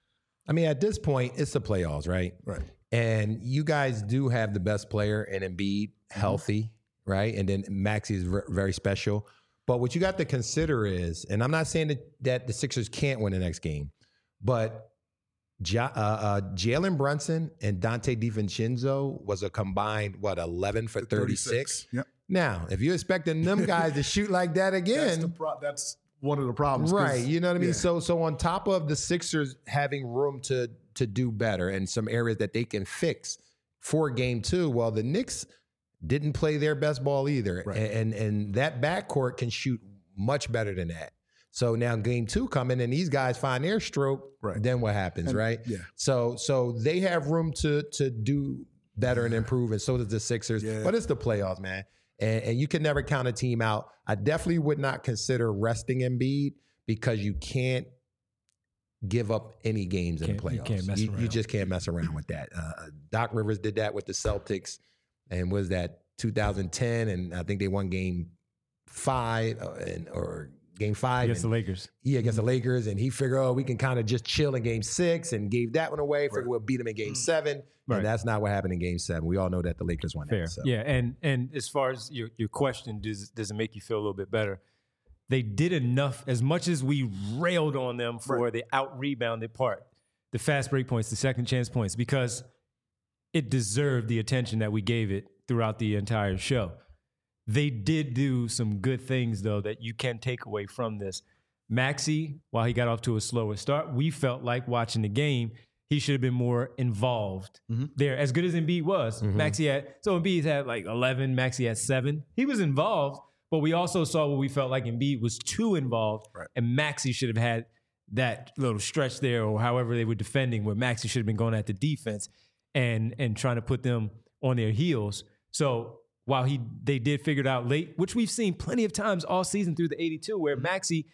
I mean, at this point, it's the playoffs, right? Right. And you guys do have the best player in Embiid, healthy, right? And then Maxey is ver- very special. But what you got to consider is, and I'm not saying that, that the Sixers can't win the next game, but ja, uh, uh, Jalen Brunson and Dante DiVincenzo was a combined, what, eleven for thirty-six? Yep. Now, if you're expecting them guys to shoot like that That's, again, the pro- that's one of the problems. 'cause- right? You know what I mean. yeah. So, so on top of the Sixers having room to to do better and some areas that they can fix for game two, well, the Knicks didn't play their best ball either, Right. and, and and that backcourt can shoot much better than that. So now game two coming, and these guys find their stroke. Right. Then what happens, And- right? yeah. So so they have room to to do better and improve, and so does the Sixers. Yeah. But it's the playoffs, man. And, and you can never count a team out. I definitely would not consider resting Embiid because you can't give up any games in the Can't- you playoffs. can't mess you, you around. just can't mess around with that. Uh, Doc Rivers did that with the Celtics, and was that two thousand ten? And I think they won game five uh, and or game five Against the and- Lakers. yeah, against the Lakers, and he figured, oh, we can kind of just chill in game six, and gave that one away. Figured Right. we'll beat them in game seven, Right. and that's not what happened in game seven. We all know that the Lakers won Fair. that. So. Yeah, and and as far as your your question, does does it make you feel a little bit better? They did enough, as much as we railed on them for Right. the out rebounded part, the fast break points, the second chance points, because it deserved the attention that we gave it throughout the entire show. They did do some good things, though, that you can take away from this. Maxey, while he got off to a slower start, we felt like watching the game, he should have been more involved there. As good as Embiid was, Maxey had, so Embiid had like eleven, Maxey had seven. He was involved, but we also saw what we felt like Embiid was too involved, Right. and Maxey should have had that little stretch there, or however they were defending, where Maxey should have been going at the defense and and trying to put them on their heels. So while he they did figure it out late, which we've seen plenty of times all season through the eighty-two, where Maxey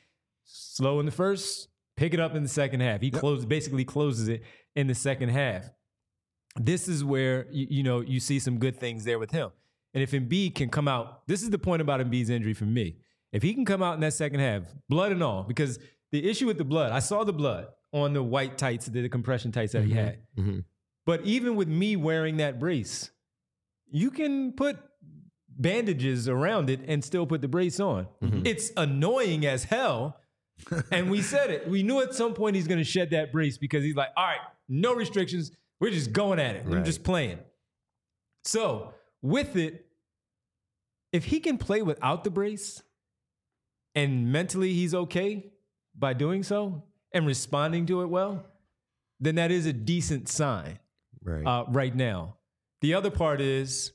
slow in the first, pick it up in the second half. He Yep. closes, basically closes it in the second half. This is where, you, you know, you see some good things there with him. And if Embiid can come out, this is the point about Embiid's injury for me. If he can come out in that second half, blood and all, because the issue with the blood, I saw the blood on the white tights, the, the compression tights that he had. Mm-hmm. But even with me wearing that brace, you can put bandages around it and still put the brace on. Mm-hmm. It's annoying as hell. And we said it. We knew at some point he's going to shed that brace because he's like, all right, no restrictions. We're just going at it. We're Right. just playing. So with it, if he can play without the brace and mentally he's okay by doing so and responding to it well, then that is a decent sign Right. uh, right now. The other part is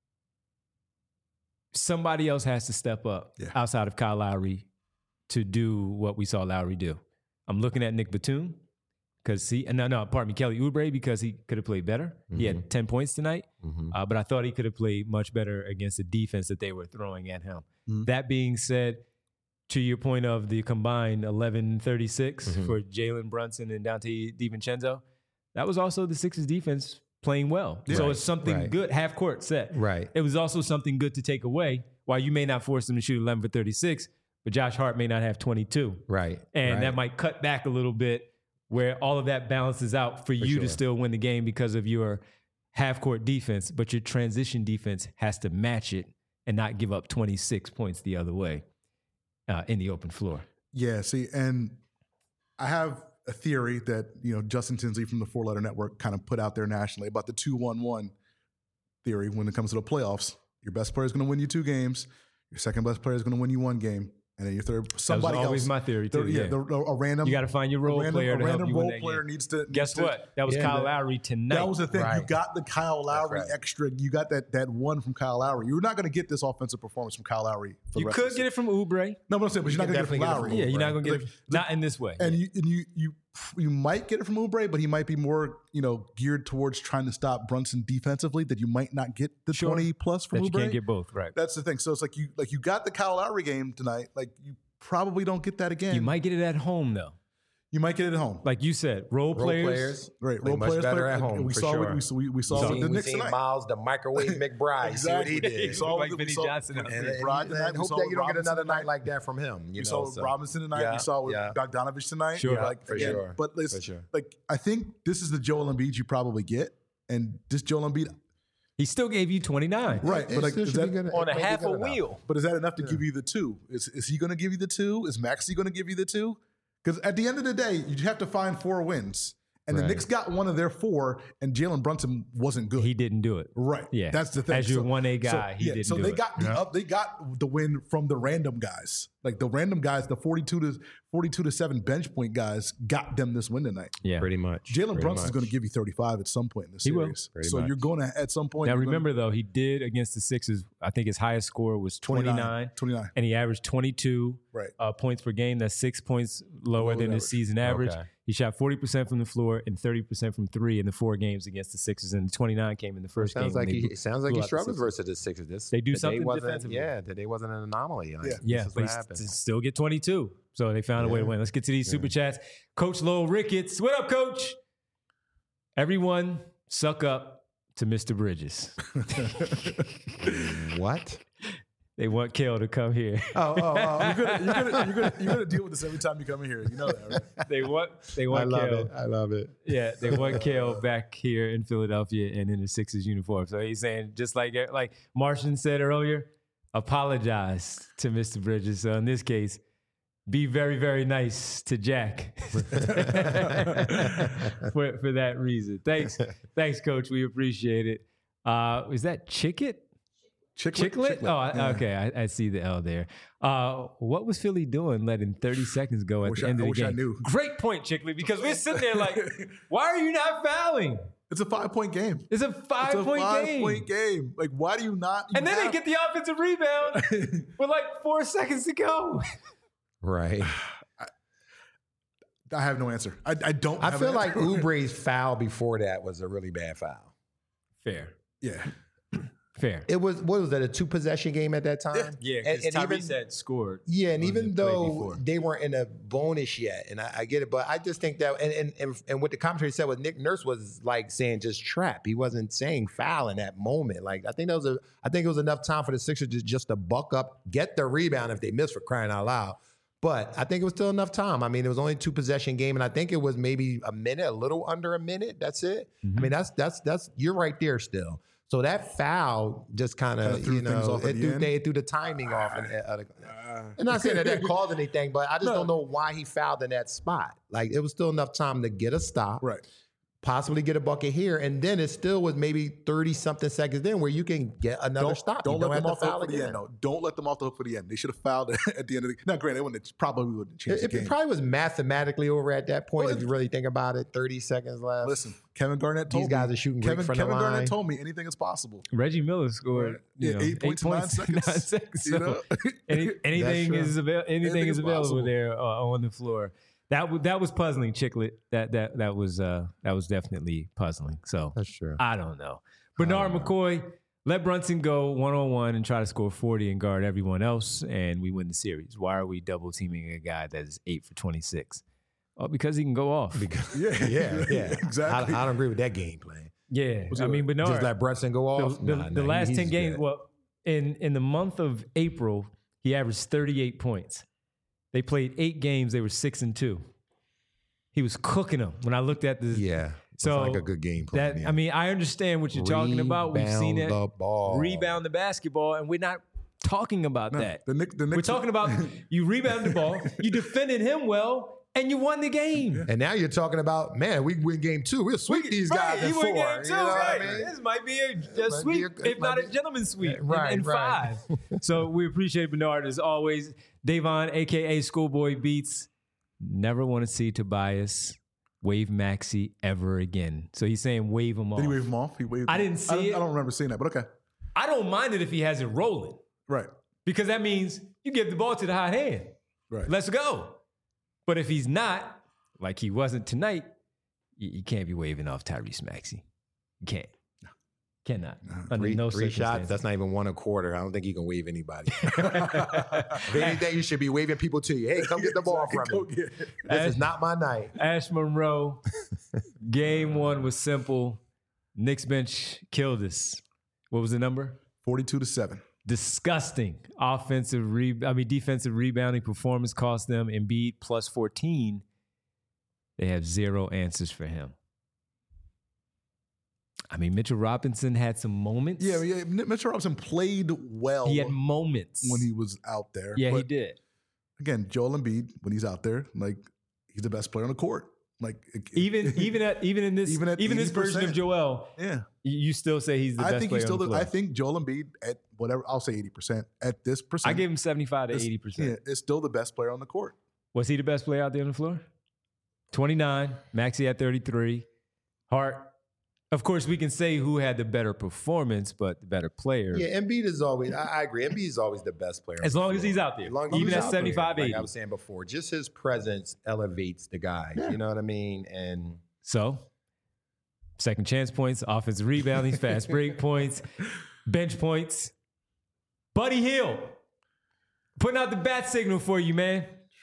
somebody else has to step up Yeah. outside of Kyle Lowry to do what we saw Lowry do. I'm looking at Nick Batum because he, no, no, pardon me, Kelly Oubre, because he could have played better. He had ten points tonight, Mhm. uh, but I thought he could have played much better against the defense that they were throwing at him. Mhm. That being said, to your point of the combined eleven thirty-six Mhm. for Jalen Brunson and Dante DiVincenzo, that was also the Sixers defense playing well. Yeah. So Right, it's something right. good, half court set. Right. It was also something good to take away. While you may not force them to shoot eleven for thirty-six, but Josh Hart may not have twenty-two. Right. And right. that might cut back a little bit where all of that balances out for, you sure. to still win the game because of your half court defense, but your transition defense has to match it and not give up twenty-six points the other way uh, in the open floor. Yeah, see, and I have a theory that, you know, Justin Tinsley from the Four Letter Network kind of put out there nationally about the two one one theory when it comes to the playoffs. Your best player is going to win you two games. Your second best player is going to win you one game. And then your third, somebody that was always else. my theory, the- too. yeah, Yeah. the- a random. You got to find your role a random, player a to help random you win role that player game. needs to. Guess needs to- what? That was Yeah, Kyle that- Lowry tonight. That was the thing. You Right. got the Kyle Lowry right. extra. You got that that one from Kyle Lowry. You're not going to get this offensive performance from Kyle Lowry. For the You rest could of the get it from Oubre. No, but I'm saying, but You you're not can going to get it from definitely get it Lowry. from Yeah, you're not going to get Like, it. Not in this way. And you and you you you might get it from Oubre, but he might be more, you know, geared towards trying to stop Brunson defensively. That you might not get the Sure. twenty plus from that you Oubre. can't get both, right? That's the thing. So it's like you like you got the Kyle Lowry game tonight. Like you probably don't get that again. You might get it at home, though. you might get it at home. Like you said, role, Role players. players. Right, play role much players better play- at like, home, We for saw sure. what we, saw- we, we saw We with seen, the we Knicks seen tonight. Miles, the microwave McBride. You See what he Exactly. did. We saw Like what- we Vinny saw- Johnson. and- And- and And, Brogdon and, tonight. and We hope saw that with you don't get Robinson another night tonight. like that from him. You We know, saw so. Robinson tonight. Yeah, we saw with yeah. Bogdanovich tonight. Sure. like For again, sure. But listen, For sure. like I think this is the Joel Embiid you probably get, and this Joel Embiid, He still gave you twenty-nine. right? It But like, still is should that, be good- On it a may be half good a enough. wheel. but is that enough to give you the two? Is is he going to give you the two? Is Maxey going to give you the two? Because at the end of the day, you have to find four wins, and the Right. Knicks got one of their four, and Jalen Brunson wasn't good. He didn't do it. Right. Yeah. That's the thing. As your So- one A so, guy, he yeah, didn't so do they it. got the up, they got the win from the random guys. Like the random guys, the forty-two to forty-two to seven bench point guys got them this win tonight. Yeah. Pretty much. Jalen Pretty Brunson's much. going to give you thirty-five at some point in the He will. series. Pretty so much. you're going to at some point. Now you're gonna- remember though, he did against the Sixers. I think his highest score was twenty-nine, twenty-nine. and he averaged twenty-two Right. uh, points per game. That's six points lower Lower than than his average. season average. Okay. He shot forty percent from the floor and thirty percent from three in the four games against the Sixers, and the twenty-nine came in the first Sounds game. when like they he blew- it sounds like blew he out the struggles Sixers. versus the Sixers. This They do today something wasn't- defensively. Yeah, today wasn't an anomaly. Like, Yeah. Yeah, this is but what he happened. st- still get twenty-two. So they found a way to Yeah. win. Let's get to these super chats. Coach Lowell Ricketts. What up, Coach? Everyone suck up to Mister Bridges. What? They want Kel to come here. Oh, oh, oh. You're gonna, you're, gonna, you're, gonna, you're gonna deal with this every time you come in here. You know that, right? They want they I want love Kel. it. I love it. Yeah, they want Kel back here in Philadelphia and in the Sixers uniform. So he's saying, just like like Martian said earlier, apologize to Mister Bridges. So in this case, be very, very nice to Jack for, for that reason. Thanks, thanks, Coach. We appreciate it. Uh, is that Chickett? Chicklet? Chicklet? Oh, I, Yeah. okay. I, I see the L there. Uh, what was Philly doing letting thirty seconds go at Wish the I- end I of the wish I game? knew. Great point, Chicklet, because we're sitting there like, why are you not fouling? It's a five point game. It's a It's a five-point five game. point game. Like, why do you not? you And then they have- get the offensive rebound with like four seconds to go. Right. I have no answer. I, I don't. I have feel an like answer. Oubre's foul before that was a really bad foul. Fair. Yeah. Fair. It was what was that a two possession game at that time? Yeah, and, because and Tyrese even had scored. yeah, and on even the play though before. they weren't in a bonus yet, and I, I get it, but I just think that and, and and and what the commentary said was Nick Nurse was like saying just trap. He wasn't saying foul in that moment. Like I think that was a I think it was enough time for the Sixers just just to buck up, get the rebound if they missed, for crying out loud. But I think it was still enough time. I mean, it was only a two possession game, and I think it was maybe a minute, a little under a minute. That's it. Mm-hmm. I mean, that's that's that's you're right there still. So that foul just kind Kinda of, threw you things know, off at it the threw, end? they it threw the timing off. And, uh, I'm not saying that that caused anything, but I just don't know why he fouled in that spot. Like, it was still enough time to get a stop, Right. possibly get a bucket here, and then it still was maybe thirty-something seconds in where you can get another Don't, stop. don't You let have them to off the hook foul for the again. end. No, don't let them off the hook for the end. They should have fouled at the end of the. Now, granted, they wouldn't have, probably wouldn't have changed It, the it game. probably was mathematically over at that point, Well, if you really think about it. thirty seconds left. Listen, Kevin Garnett told These me. guys are shooting great Kevin, from Kevin the line. Garnett told me anything is possible. Reggie Miller scored you Yeah, know, eight points in nine seconds. nine seconds. You So know? any, anything true. is avail- anything, Anything is is available possible. there uh, on the floor. That w- that was puzzling, Chiclet. That that that was uh, that was definitely puzzling. So That's true. I don't know. Bernard McCoy, let Brunson go one on one and try to score forty and guard everyone else, and we win the series. Why are we double teaming a guy that is eight for twenty-six? Well, because he can go off. Yeah, Yeah, yeah. exactly. I, I don't agree with that game plan. Yeah, Was I it mean Bernard. Just let Brunson go off. the, the, Nah, the nah, last he's ten games. good. Well, in in the month of April, he averaged thirty-eight points. They played eight games. They were six and two. He was cooking them. When I looked at the Yeah. So it's like a good game plan. that yeah. I mean, I understand what you're talking about. We've seen it Rebound the ball. rebound the basketball, and we're not talking about that. The Nick, the Knicks, We're talking about you rebounded the ball, you defended him well, and you won the game. And now you're talking about, man, we win game two. We'll sweep these guys in you four. win game two, you know right? what I mean? This might be a, a might sweep, be a- it if not might a be- gentleman's sweep, in- Right, in, right. five. So we appreciate Bernard as always. Davon, aka Schoolboy Beats, never want to see Tobias wave Maxey ever again. So he's saying wave him off. Did he wave him off? He waved. I him. didn't see I don't, it. I don't remember seeing that, but okay. I don't mind it if he has it rolling, Right. because that means you give the ball to the hot hand. Right. Let's go. But if he's not, like he wasn't tonight, you, you can't be waving off Tyrese Maxey. You can't. Cannot. Under Three, no three shots, circumstances. that's not even one a quarter. I don't think you can wave anybody. If anything, you should be waving people to you. Hey, come get the ball from Go me. get it. This is not my night. Ash Monroe, game one was simple. Knicks bench killed us. What was the number? Forty-two to seven. Disgusting offensive re- I mean defensive rebounding performance cost them. Embiid plus fourteen. They have zero answers for him. I mean, Mitchell Robinson had some moments. Yeah, yeah. Mitchell Robinson played well He had moments when he was out there. Yeah, he but did. Again, Joel Embiid, when he's out there, like he's the best player on the court. Like it- Even even at even in this Even even, at this version of eighty percent. Joel, yeah. you you still say he's the I best think player he's still. on the The, floor. I think Joel Embiid at whatever I'll say eighty percent at this percent. I gave him seventy-five to is- eighty percent. Yeah, is still the best player on the court. Was he the best player out there on the floor? twenty-nine. Maxey at thirty-three. Hart. Of course, we can say who had the better performance, but the better player. Yeah, Embiid is always, I, I agree. Embiid is always the best player. on As the long as floor. he's out there. As long as Even he's at out there. seventy-five, eighty. Like I was saying before, just his presence elevates the guy. You know what I mean? And So, second chance points, offensive rebounding, fast break points, bench points. Buddy Hield, putting out the bat signal for you, man.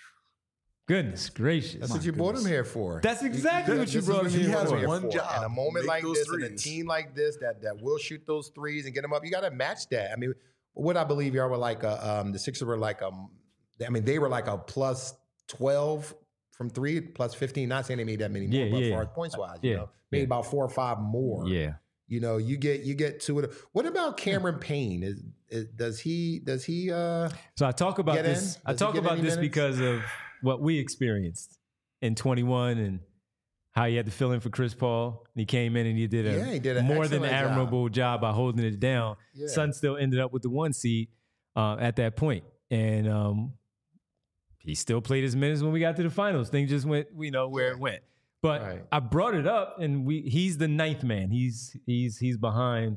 Goodness gracious. that's what you brought him here for. That's exactly what you This is brought him you here brought for. him One for. job, And a moment make like those this and a threes. team like this that that will shoot those threes and get them up, you got to match that. I mean, what I believe y'all were like, a, um, the Sixers were like, um, I mean, they were like a plus twelve from three, plus fifteen. Not saying they made that many more, Yeah, but yeah, as far yeah. as points wise, Yeah, you know, made yeah. about four or five more. Yeah. You know, you get you get two of them. What about Cameron Payne? Is, is does he does he uh So I talk about Get this. in? I Does he talk get about any this minutes? because of what we experienced in twenty-one and how he had to fill in for Chris Paul. He came in and he did a Yeah, he did an more than excellent job. admirable job. by holding it down. Yeah. Sun still ended up with the one seed uh, at that point, and um, he still played his minutes when we got to the finals. Things just went, you know, where it went. But Right. I brought it up, and we he's the ninth man. He's he's he's behind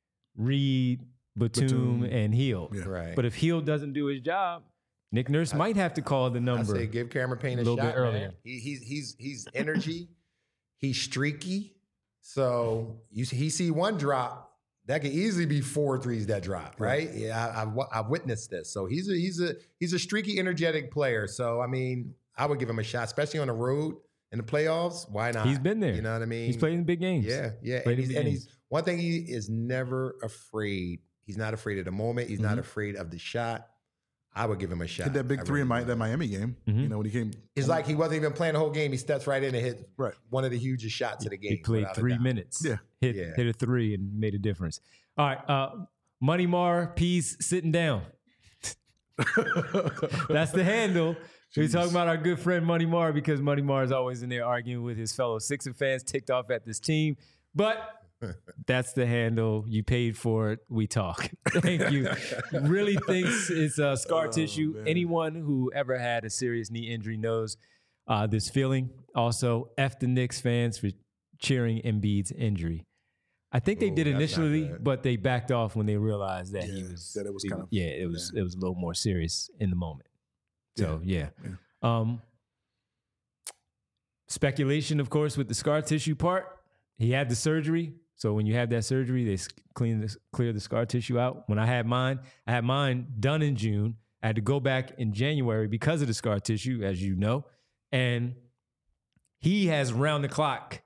Reed, Batum, Batum. and Hield. Yeah. right? But if Hield doesn't do his job, Nick Nurse might have to call the I number. say give Cameron Payne a, a little shot bit earlier. man. He, he's he's he's energy. He's streaky. So you see, he see one drop, that could easily be four threes that drop, right? Yeah, I, I've, I've witnessed this. So he's a he's a he's a streaky, energetic player. So I mean, I would give him a shot, especially on the road in the playoffs. Why not? He's been there. You know what I mean? He's played in big games. Yeah, yeah. Played And, in he's, big and games. he's one thing. He is never afraid. He's not afraid of the moment. He's Mm-hmm. not afraid of the shot. I would give him a shot. Hit that big I three in really Mi- would. that Miami game. Mhm. You know, when he came. It's like he wasn't even playing the whole game. He steps right in and hit Right. one of the hugest shots of the game. He played without a three doubt. minutes. Yeah. Hit, Yeah. hit a three and made a difference. All right. Uh, Money Mar, Peace, sitting down. That's the handle. We're talking about our good friend Money Mar because Money Mar is always in there arguing with his fellow Sixer fans, ticked off at this team. But that's the handle. You paid for it. We talk. Thank you. Really thinks it's uh, scar Oh, tissue. man. Anyone who ever had a serious knee injury knows uh, this feeling. Also, F the Knicks fans for cheering Embiid's injury. I think they Ooh, did that's not initially, good. but they backed off when they realized that he Yeah, was that it was he- kind of- yeah, it was it was a little more serious in the moment. So yeah. Yeah. Um speculation, of course, with the scar tissue part. He had the surgery. So when you have that surgery, they s- clean this, clear the scar tissue out. When I had mine, I had mine done in June. I had to go back in January because of the scar tissue, as you know. And he has round the clock,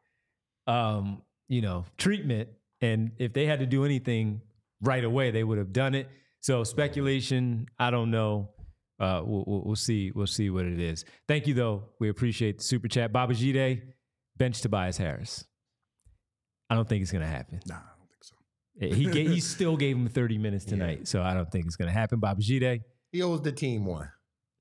um, you know, treatment. And if they had to do anything right away, they would have done it. So speculation, I don't know. Uh, we'll, we'll, we'll see. We'll see what it is. Thank you, though. We appreciate the super chat. Baba Jide, bench Tobias Harris. I don't think it's going to happen. Nah, I don't think so. He gave, he still gave him thirty minutes tonight, so I don't think it's going to happen. Baba Jide, He owes the team one.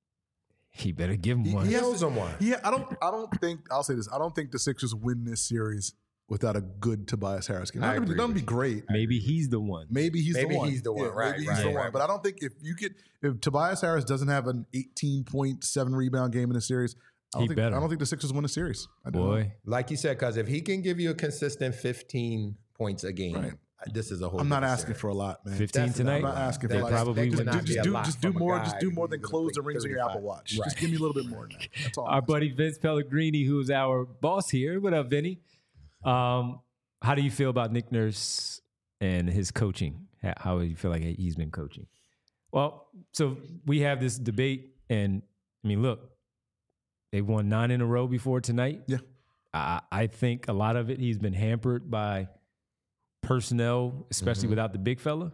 he better give him He- one. he He has owes him one. Yeah, I don't. I don't think. I'll say this. I don't think the Sixers win this series without a good Tobias Harris game. I That would agree be with great. Maybe he's the one. Maybe he's Maybe the one. he's the one. Yeah, Right, Maybe he's right, the right. one. But I don't think if you get if Tobias Harris doesn't have an eighteen point seven rebound game in the series, I don't He think better. I don't think the Sixers win the series. I don't know. Boy, Like you said, because if he can give you a consistent fifteen points a game, Right. this is a whole. I'm not different asking series. for a lot, man. fifteen That's tonight. I'm not asking for They a lot. probably just, would not just, be just a do lot just do from a more. guy Just do more who's than gonna close the play rings on your Apple thirty-five. Watch. Just Right. give me a little bit more than that. That's all. Our I'm buddy Vince Pellegrini, who's our boss here. What up, Vinny? Um, how do you feel about Nick Nurse and his coaching? How, how do you feel like he's been coaching? Well, so we have this debate, and I mean, look, they won nine in a row before tonight. Yeah. I, I think a lot of it he's been hampered by personnel, especially Mhm. without the big fella.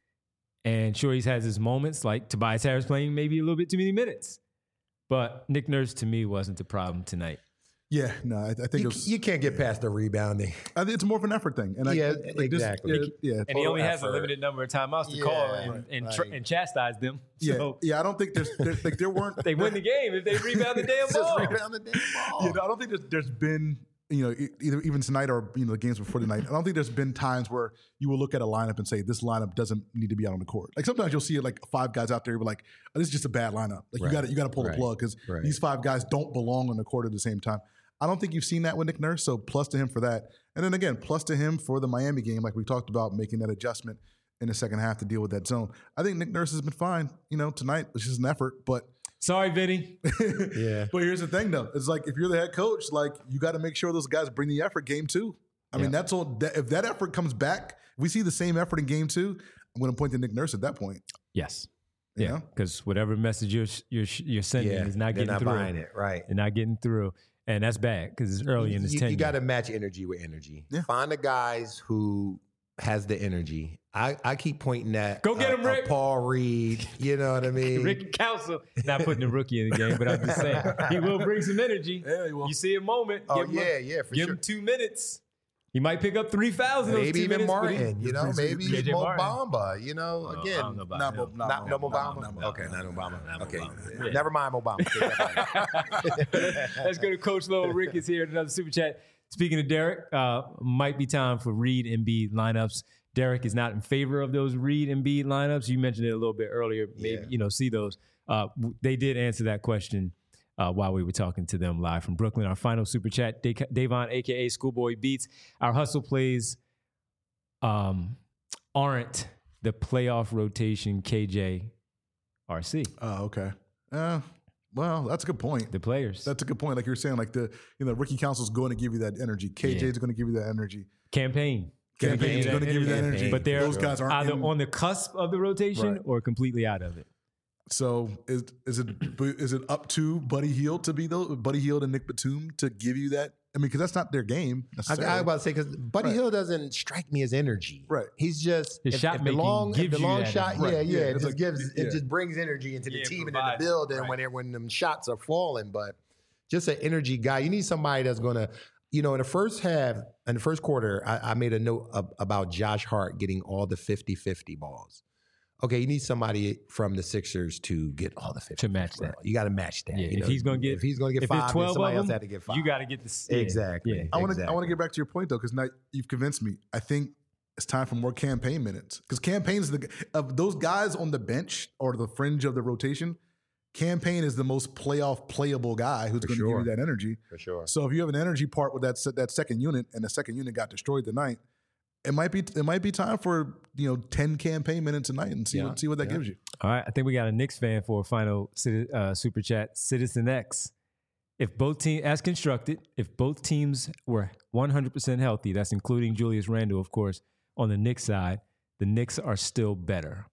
And sure, he's has his moments, like Tobias Harris playing maybe a little bit too many minutes. But Nick Nurse, to me, wasn't the problem tonight. Yeah, no, I, I think it You, was. you can't get past the rebounding. I think it's more of an effort thing. And I, Yeah, like this- exactly. yeah, yeah. And he only has a effort. limited number of timeouts to Yeah, call and, right, and, tr- right. and chastise them. Yeah, So yeah. I don't think there's, there's like there weren't. they win the game if they rebound the damn Just ball. rebound the damn ball. Yeah, no, I don't think there's, there's been, you know, e- either even tonight or you know the games before tonight. I don't think there's been times where you will look at a lineup and say this lineup doesn't need to be out on the court. Like sometimes you'll see like five guys out there, but like oh, this is just a bad lineup. Like you Right, got to you got to pull the right, plug because right. these five guys don't belong on the court at the same time. I don't think you've seen that with Nick Nurse. So plus to him for that, and then again plus to him for the Miami game, like we talked about making that adjustment in the second half to deal with that zone. I think Nick Nurse has been fine. You know, tonight it's just an effort, but. Sorry, Vinny. Yeah. But here's the thing, though. It's like if you're the head coach, like you got to make sure those guys bring the effort game two. I mean, that's all. That, if that effort comes back, if we see the same effort in game two, I'm going to point to Nick Nurse at that point. Yes. You Yeah. know? Because whatever message you're you're you're sending Yeah, is not they're getting not through. buying it, right? They're not getting through, and that's bad because it's early in his you, tenure. you got to match energy with energy. Yeah. Find the guys who has the energy. I, I keep pointing at Go get uh, him, Rick. uh, Paul Reed. You know what I mean? Ricky Council not putting the rookie in the game, but I'm just saying he will bring some energy. Yeah, he will. You see a moment. Oh give him a- yeah, yeah, for give sure. him two minutes. He might pick up three thousand. Maybe even minutes, but he- Martin. You know, brings- maybe J J Mo Martin. Bamba. You know, Oh, again, I don't know about Not him. Mo- not not no Mo- Obama. not Mo- not Mo- Okay, not Obama. not Okay, Obama. Yeah. never mind Obama. Take that back. Let's go to Coach Lowell. Rick is here. Another super chat. Speaking of Derek, uh, might be time for Reed and Embiid lineups. Derek is not in favor of those Reed and Embiid lineups. You mentioned it a little bit earlier. Maybe Yeah. you know, see those. Uh, w- they did answer that question uh, while we were talking to them live from Brooklyn. Our final super chat, Da- Davon, aka Schoolboy Beats. Our hustle plays um, aren't the playoff rotation K J R C. Oh, okay. Uh, well, that's a good point. The players. That's a good point. Like you were saying, like the you know Ricky Council's going to give you that energy. K J's Yeah. going to give you that energy. Campaign. Campaign's going to give you that energy. But they're Those guys aren't either in- on the cusp of the rotation Right. or completely out of it. So is is it is it up to Buddy Hield to be the Buddy Hield and Nick Batum to give you that? I mean, because that's not their game. I, I necessarily. was about to say because Buddy Right. Hield doesn't strike me as energy. Right. He's just His if, shot if the making long, if gives the you long that shot. energy. Yeah, Right. yeah. Yeah, It it's just like- gives yeah. it just brings energy into the Yeah, team and in provides the it. building Right. when it, when them shots are falling. But just an energy guy. You need somebody that's gonna. You know, in the first half, in the first quarter, I, I made a note of, about Josh Hart getting all the fifty-fifty balls. Okay, you need somebody from the Sixers to get all the fifty To match that. You got to match that. Yeah, you if know? he's gonna get if he's going to get if there's five, then twelve somebody of else them, had to get five. you got to get the yeah, Exactly. Yeah. I want to I Exactly. want to get back to your point though, because now you've convinced me. I think it's time for more campaign minutes because campaigns the of those guys on the bench or the fringe of the rotation. Campaign is the most playoff playable guy who's going to sure. give you that energy. For sure. So if you have an energy part with that se- that second unit, and the second unit got destroyed tonight, it might be it might be time for you know ten campaign minutes a night and see Yeah. what see what that Yeah. gives you. All right, I think we got a Knicks fan for a final citi- uh, super chat. Citizen X. If both teams, as constructed, if both teams were one hundred percent healthy, that's including Julius Randle, of course, on the Knicks side, the Knicks are still better.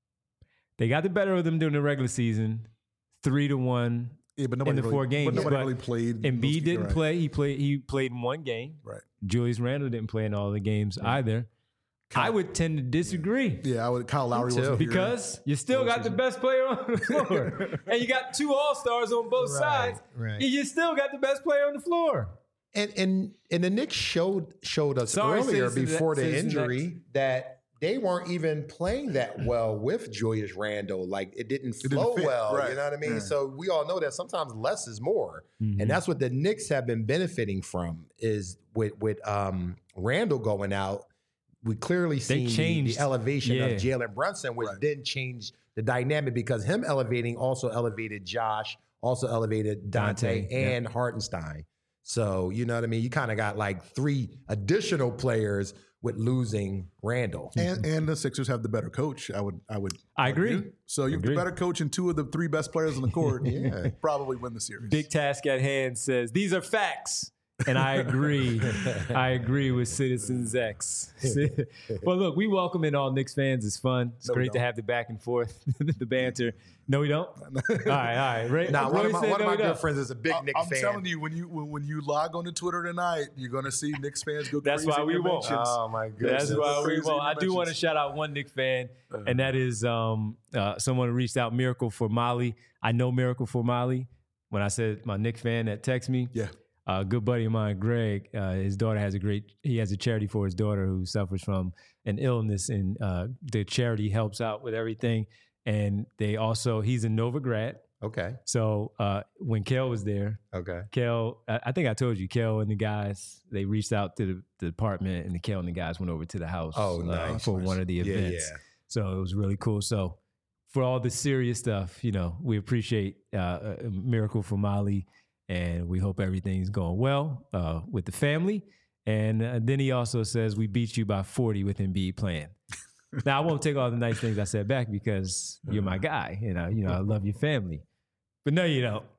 They got the better of them during the regular season, three to one. Yeah, but nobody the really, four games, But nobody but really played. Embiid those- didn't right. play. He played. He played in one game. Right. Julius Randle didn't play in all the games either. I would tend to disagree. Yeah, I would. Kyle Lowry too. wasn't here. Because you still got the best player on the floor. And you got two all-stars on both Right, sides. right. And you still got the best player on the floor. And and and the Knicks showed showed us Sorry, earlier Citizens- before the Citizens injury that they weren't even playing that well with Julius Randle. Like it didn't didn't flow fit, well. right. You know what I mean? Yeah. So we all know that sometimes less is more, and that's what the Knicks have been benefiting from. Is with with um, Randle going out, we clearly seen the, changed. the elevation Yeah. of Jalen Brunson, which Right. then changed the dynamic because him elevating also elevated Josh, also elevated Dante, Dante, yeah. and Hartenstein. So, you know what I mean? You kind of got like three additional players with losing Randall. And and the Sixers have the better coach. I would I would. I agree. argue. So you have Agree. the better coach and two of the three best players on the court. Yeah. Probably win the series. Big Task at Hand says, these are facts. And I agree. I agree with Citizens X. Well, look, we welcome in all Knicks fans. It's fun. It's No, we great to don't. have the back and forth, the banter. No, we don't? All right, all right. Ray, Now, one Roy of my, said one of no, my we good don't. friends is a big I- Knicks I'm fan. telling you, when you when, when you log on to Twitter tonight, you're gonna see Knicks fans go That's crazy. why in we your won't. mentions. Oh, my goodness. That's why we Crazy won't. I do want to mentions. shout out one Knicks fan, and that is um, uh, someone who reached out, Miracle for Molly. I know Miracle for Molly. When I said my Knicks fan that texted me, Yeah. a good buddy of mine, Greg, uh, his daughter has a great, he has a charity for his daughter who suffers from an illness, and uh, the charity helps out with everything. And they also, he's a Nova grad. Okay. So uh, when Kel was there, Okay. Kel, I I think I told you, Kel and the guys, they reached out to the, the department, and the Kel and the guys went over to the house Oh, uh, nice, for nice. one of the Yeah, events. yeah. So it was really cool. So for all the serious stuff, you know, we appreciate uh, a Miracle for Molly, and we hope everything's going well uh, with the family. And uh, then he also says, we beat you by forty with Embiid playing. Now, I won't take all the nice things I said back because you're my guy, and I, you know, I love your family. But no, you don't.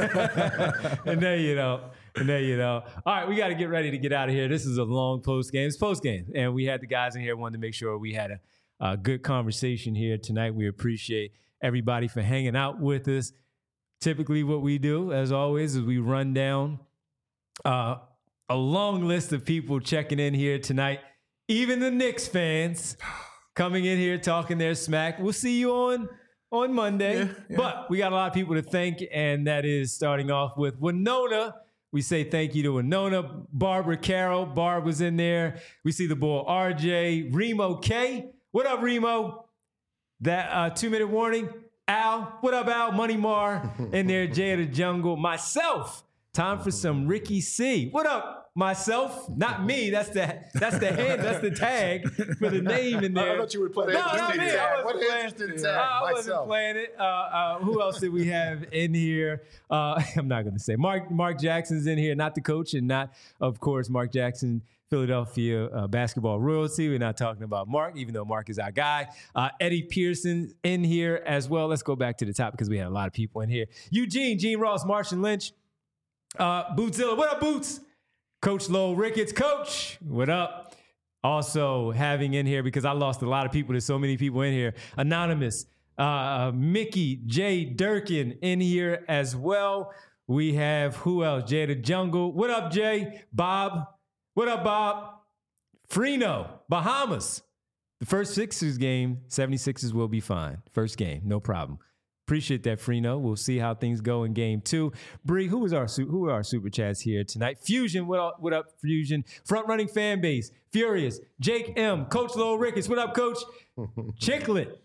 And no, you don't. And no, you don't. All right, we got to get ready to get out of here. This is a long post game. It's post game, and we had the guys in here wanted to make sure we had a, a good conversation here tonight. We appreciate everybody for hanging out with us. Typically, what we do, as always, is we run down uh, a long list of people checking in here tonight. Even the Knicks fans coming in here talking their smack. We'll see you on on Monday. Yeah, yeah. But we got a lot of people to thank, and that is starting off with Winona. We say thank you to Winona, Barbara Carroll. Barb was in there. We see the boy R J, Remo K. What up, Remo? That uh, two-minute warning. Al, what up, Al? Money Mar in there. Jay of the Jungle. Myself. Time for some Ricky C. What up, myself? Not me. That's the that's the hand. That's the tag for the name in there. I thought you would put No, that. not me. Interesting I tag. wasn't What an playing. interesting Uh, tag. I wasn't Myself. playing it. Uh, uh, who else did we have in here? Uh, I'm not going to say. Mark Mark Jackson's in here. Not the coach, and not, of course, Mark Jackson, Philadelphia uh, basketball royalty. We're not talking about Mark, even though Mark is our guy. Uh, Eddie Pearson in here as well. Let's go back to the top because we had a lot of people in here. Eugene, Gene Ross, Martian Lynch, uh, Bootzilla. What up, Boots? Coach Lowell Ricketts. Coach, what up? Also having in here, because I lost a lot of people. There's so many people in here. Anonymous, uh, Mickey, Jay Durkin in here as well. We have, who else? Jay the Jungle. What up, Jay? Bob. What up, Bob? Freno, Bahamas. The first Sixers game, seventy-sixers will be fine. First game, no problem. Appreciate that, Freno. We'll see how things go in game two. Bree, who was our who are our super chats here tonight? Fusion, what up, what up, Fusion? Front running fan base, Furious, Jake M, Coach Lowell Ricketts, what up, Coach? Chicklet.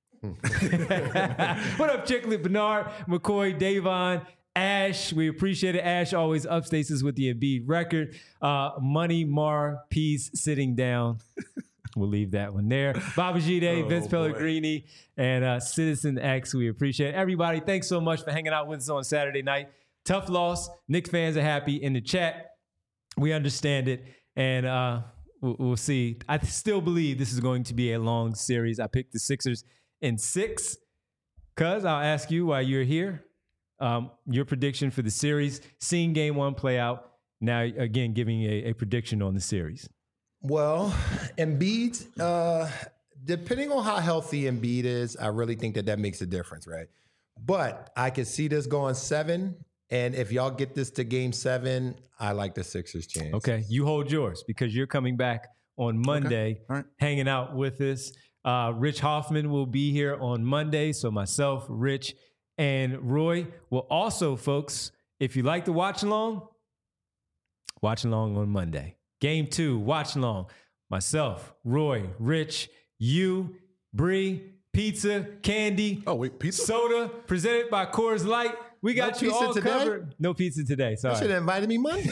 What up, Chicklet? Bernard, McCoy, Davon, Ash. We appreciate it. Ash always upstates us with the Embiid record. Uh, Money Mar, peace, sitting down. We'll leave that one there. Babajide, oh, Vince boy. Pellegrini, and uh, Citizen X. We appreciate it. Everybody, thanks so much for hanging out with us on Saturday night. Tough loss. Knicks fans are happy in the chat. We understand it, and uh, we'll, we'll see. I still believe this is going to be a long series. I picked the Sixers in six. Cuz, I'll ask you while you're here, um, your prediction for the series, seeing game one play out, now again giving a, a prediction on the series. Well, Embiid, uh, depending on how healthy Embiid is, I really think that that makes a difference, right? But I could see this going seven, and if y'all get this to game seven, I like the Sixers' chance. Okay, you hold yours because you're coming back on Monday, okay. All right. hanging out with us. Uh, Rich Hoffman will be here on Monday, so myself, Rich, and Roy will also, folks, if you like to watch along, watch along on Monday. Game two, watch along. Myself, Roy, Rich, you, Bree, pizza, candy. Oh, wait, pizza? Soda, presented by Coors Light. We got no you all today? covered. No pizza today, sorry. You should have invited me Monday.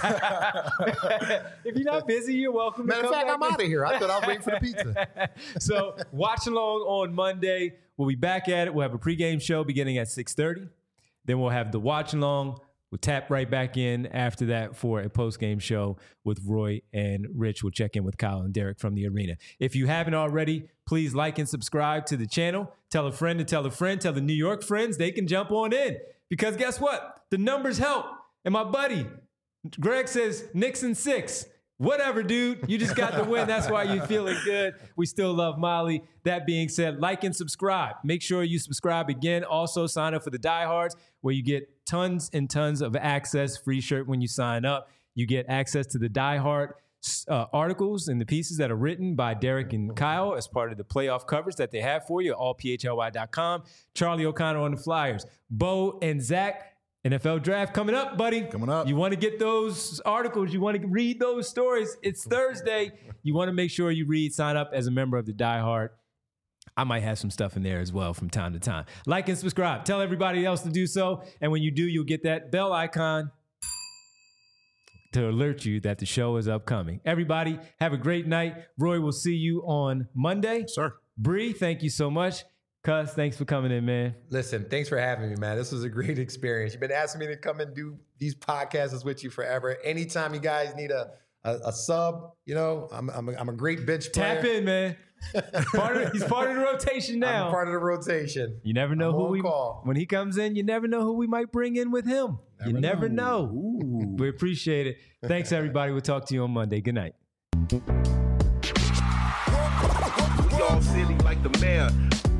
If you're not busy, you're welcome. Matter to of come fact, back I'm out of here. I thought I was waiting for the pizza. So watch along on Monday. We'll be back at it. We'll have a pregame show beginning at six thirty. Then we'll have the watch along. We'll tap right back in after that for a post-game show with Roy and Rich. We'll check in with Kyle and Derek from the arena. If you haven't already, please like and subscribe to the channel. Tell a friend to tell a friend. Tell the New York friends they can jump on in. Because guess what? The numbers help. And my buddy, Greg says, Knicks in six. Whatever, dude. You just got the win. That's why you're feeling good. We still love Molly. That being said, like and subscribe. Make sure you subscribe again. Also, sign up for the Diehards, where you get tons and tons of access. Free shirt when you sign up. You get access to the Die Hard uh, articles and the pieces that are written by Derek and Kyle as part of the playoff coverage that they have for you at all p h l y dot com. Charlie O'Connor on the Flyers. Bo and Zach. N F L draft coming up, buddy. Coming up. You want to get those articles. You want to read those stories. It's Thursday. You want to make sure you read, sign up as a member of the Die Hard. I might have some stuff in there as well from time to time. Like and subscribe. Tell everybody else to do so. And when you do, you'll get that bell icon to alert you that the show is upcoming. Everybody, have a great night. Roy, will see you on Monday. Sir. Bree, thank you so much. Cuz, thanks for coming in, man. Listen, thanks for having me, man. This was a great experience. You've been asking me to come and do these podcasts with you forever. Anytime you guys need a a, a sub, you know, I'm I'm a, I'm a great bench player. Tap in, man. part of, he's part of the rotation now. I'm part of the rotation. You never know I'm who on we call. When he comes in, you never know who we might bring in with him. Never you never know. know. We appreciate it. Thanks, everybody. We'll talk to you on Monday. Good night. We all silly like the mayor.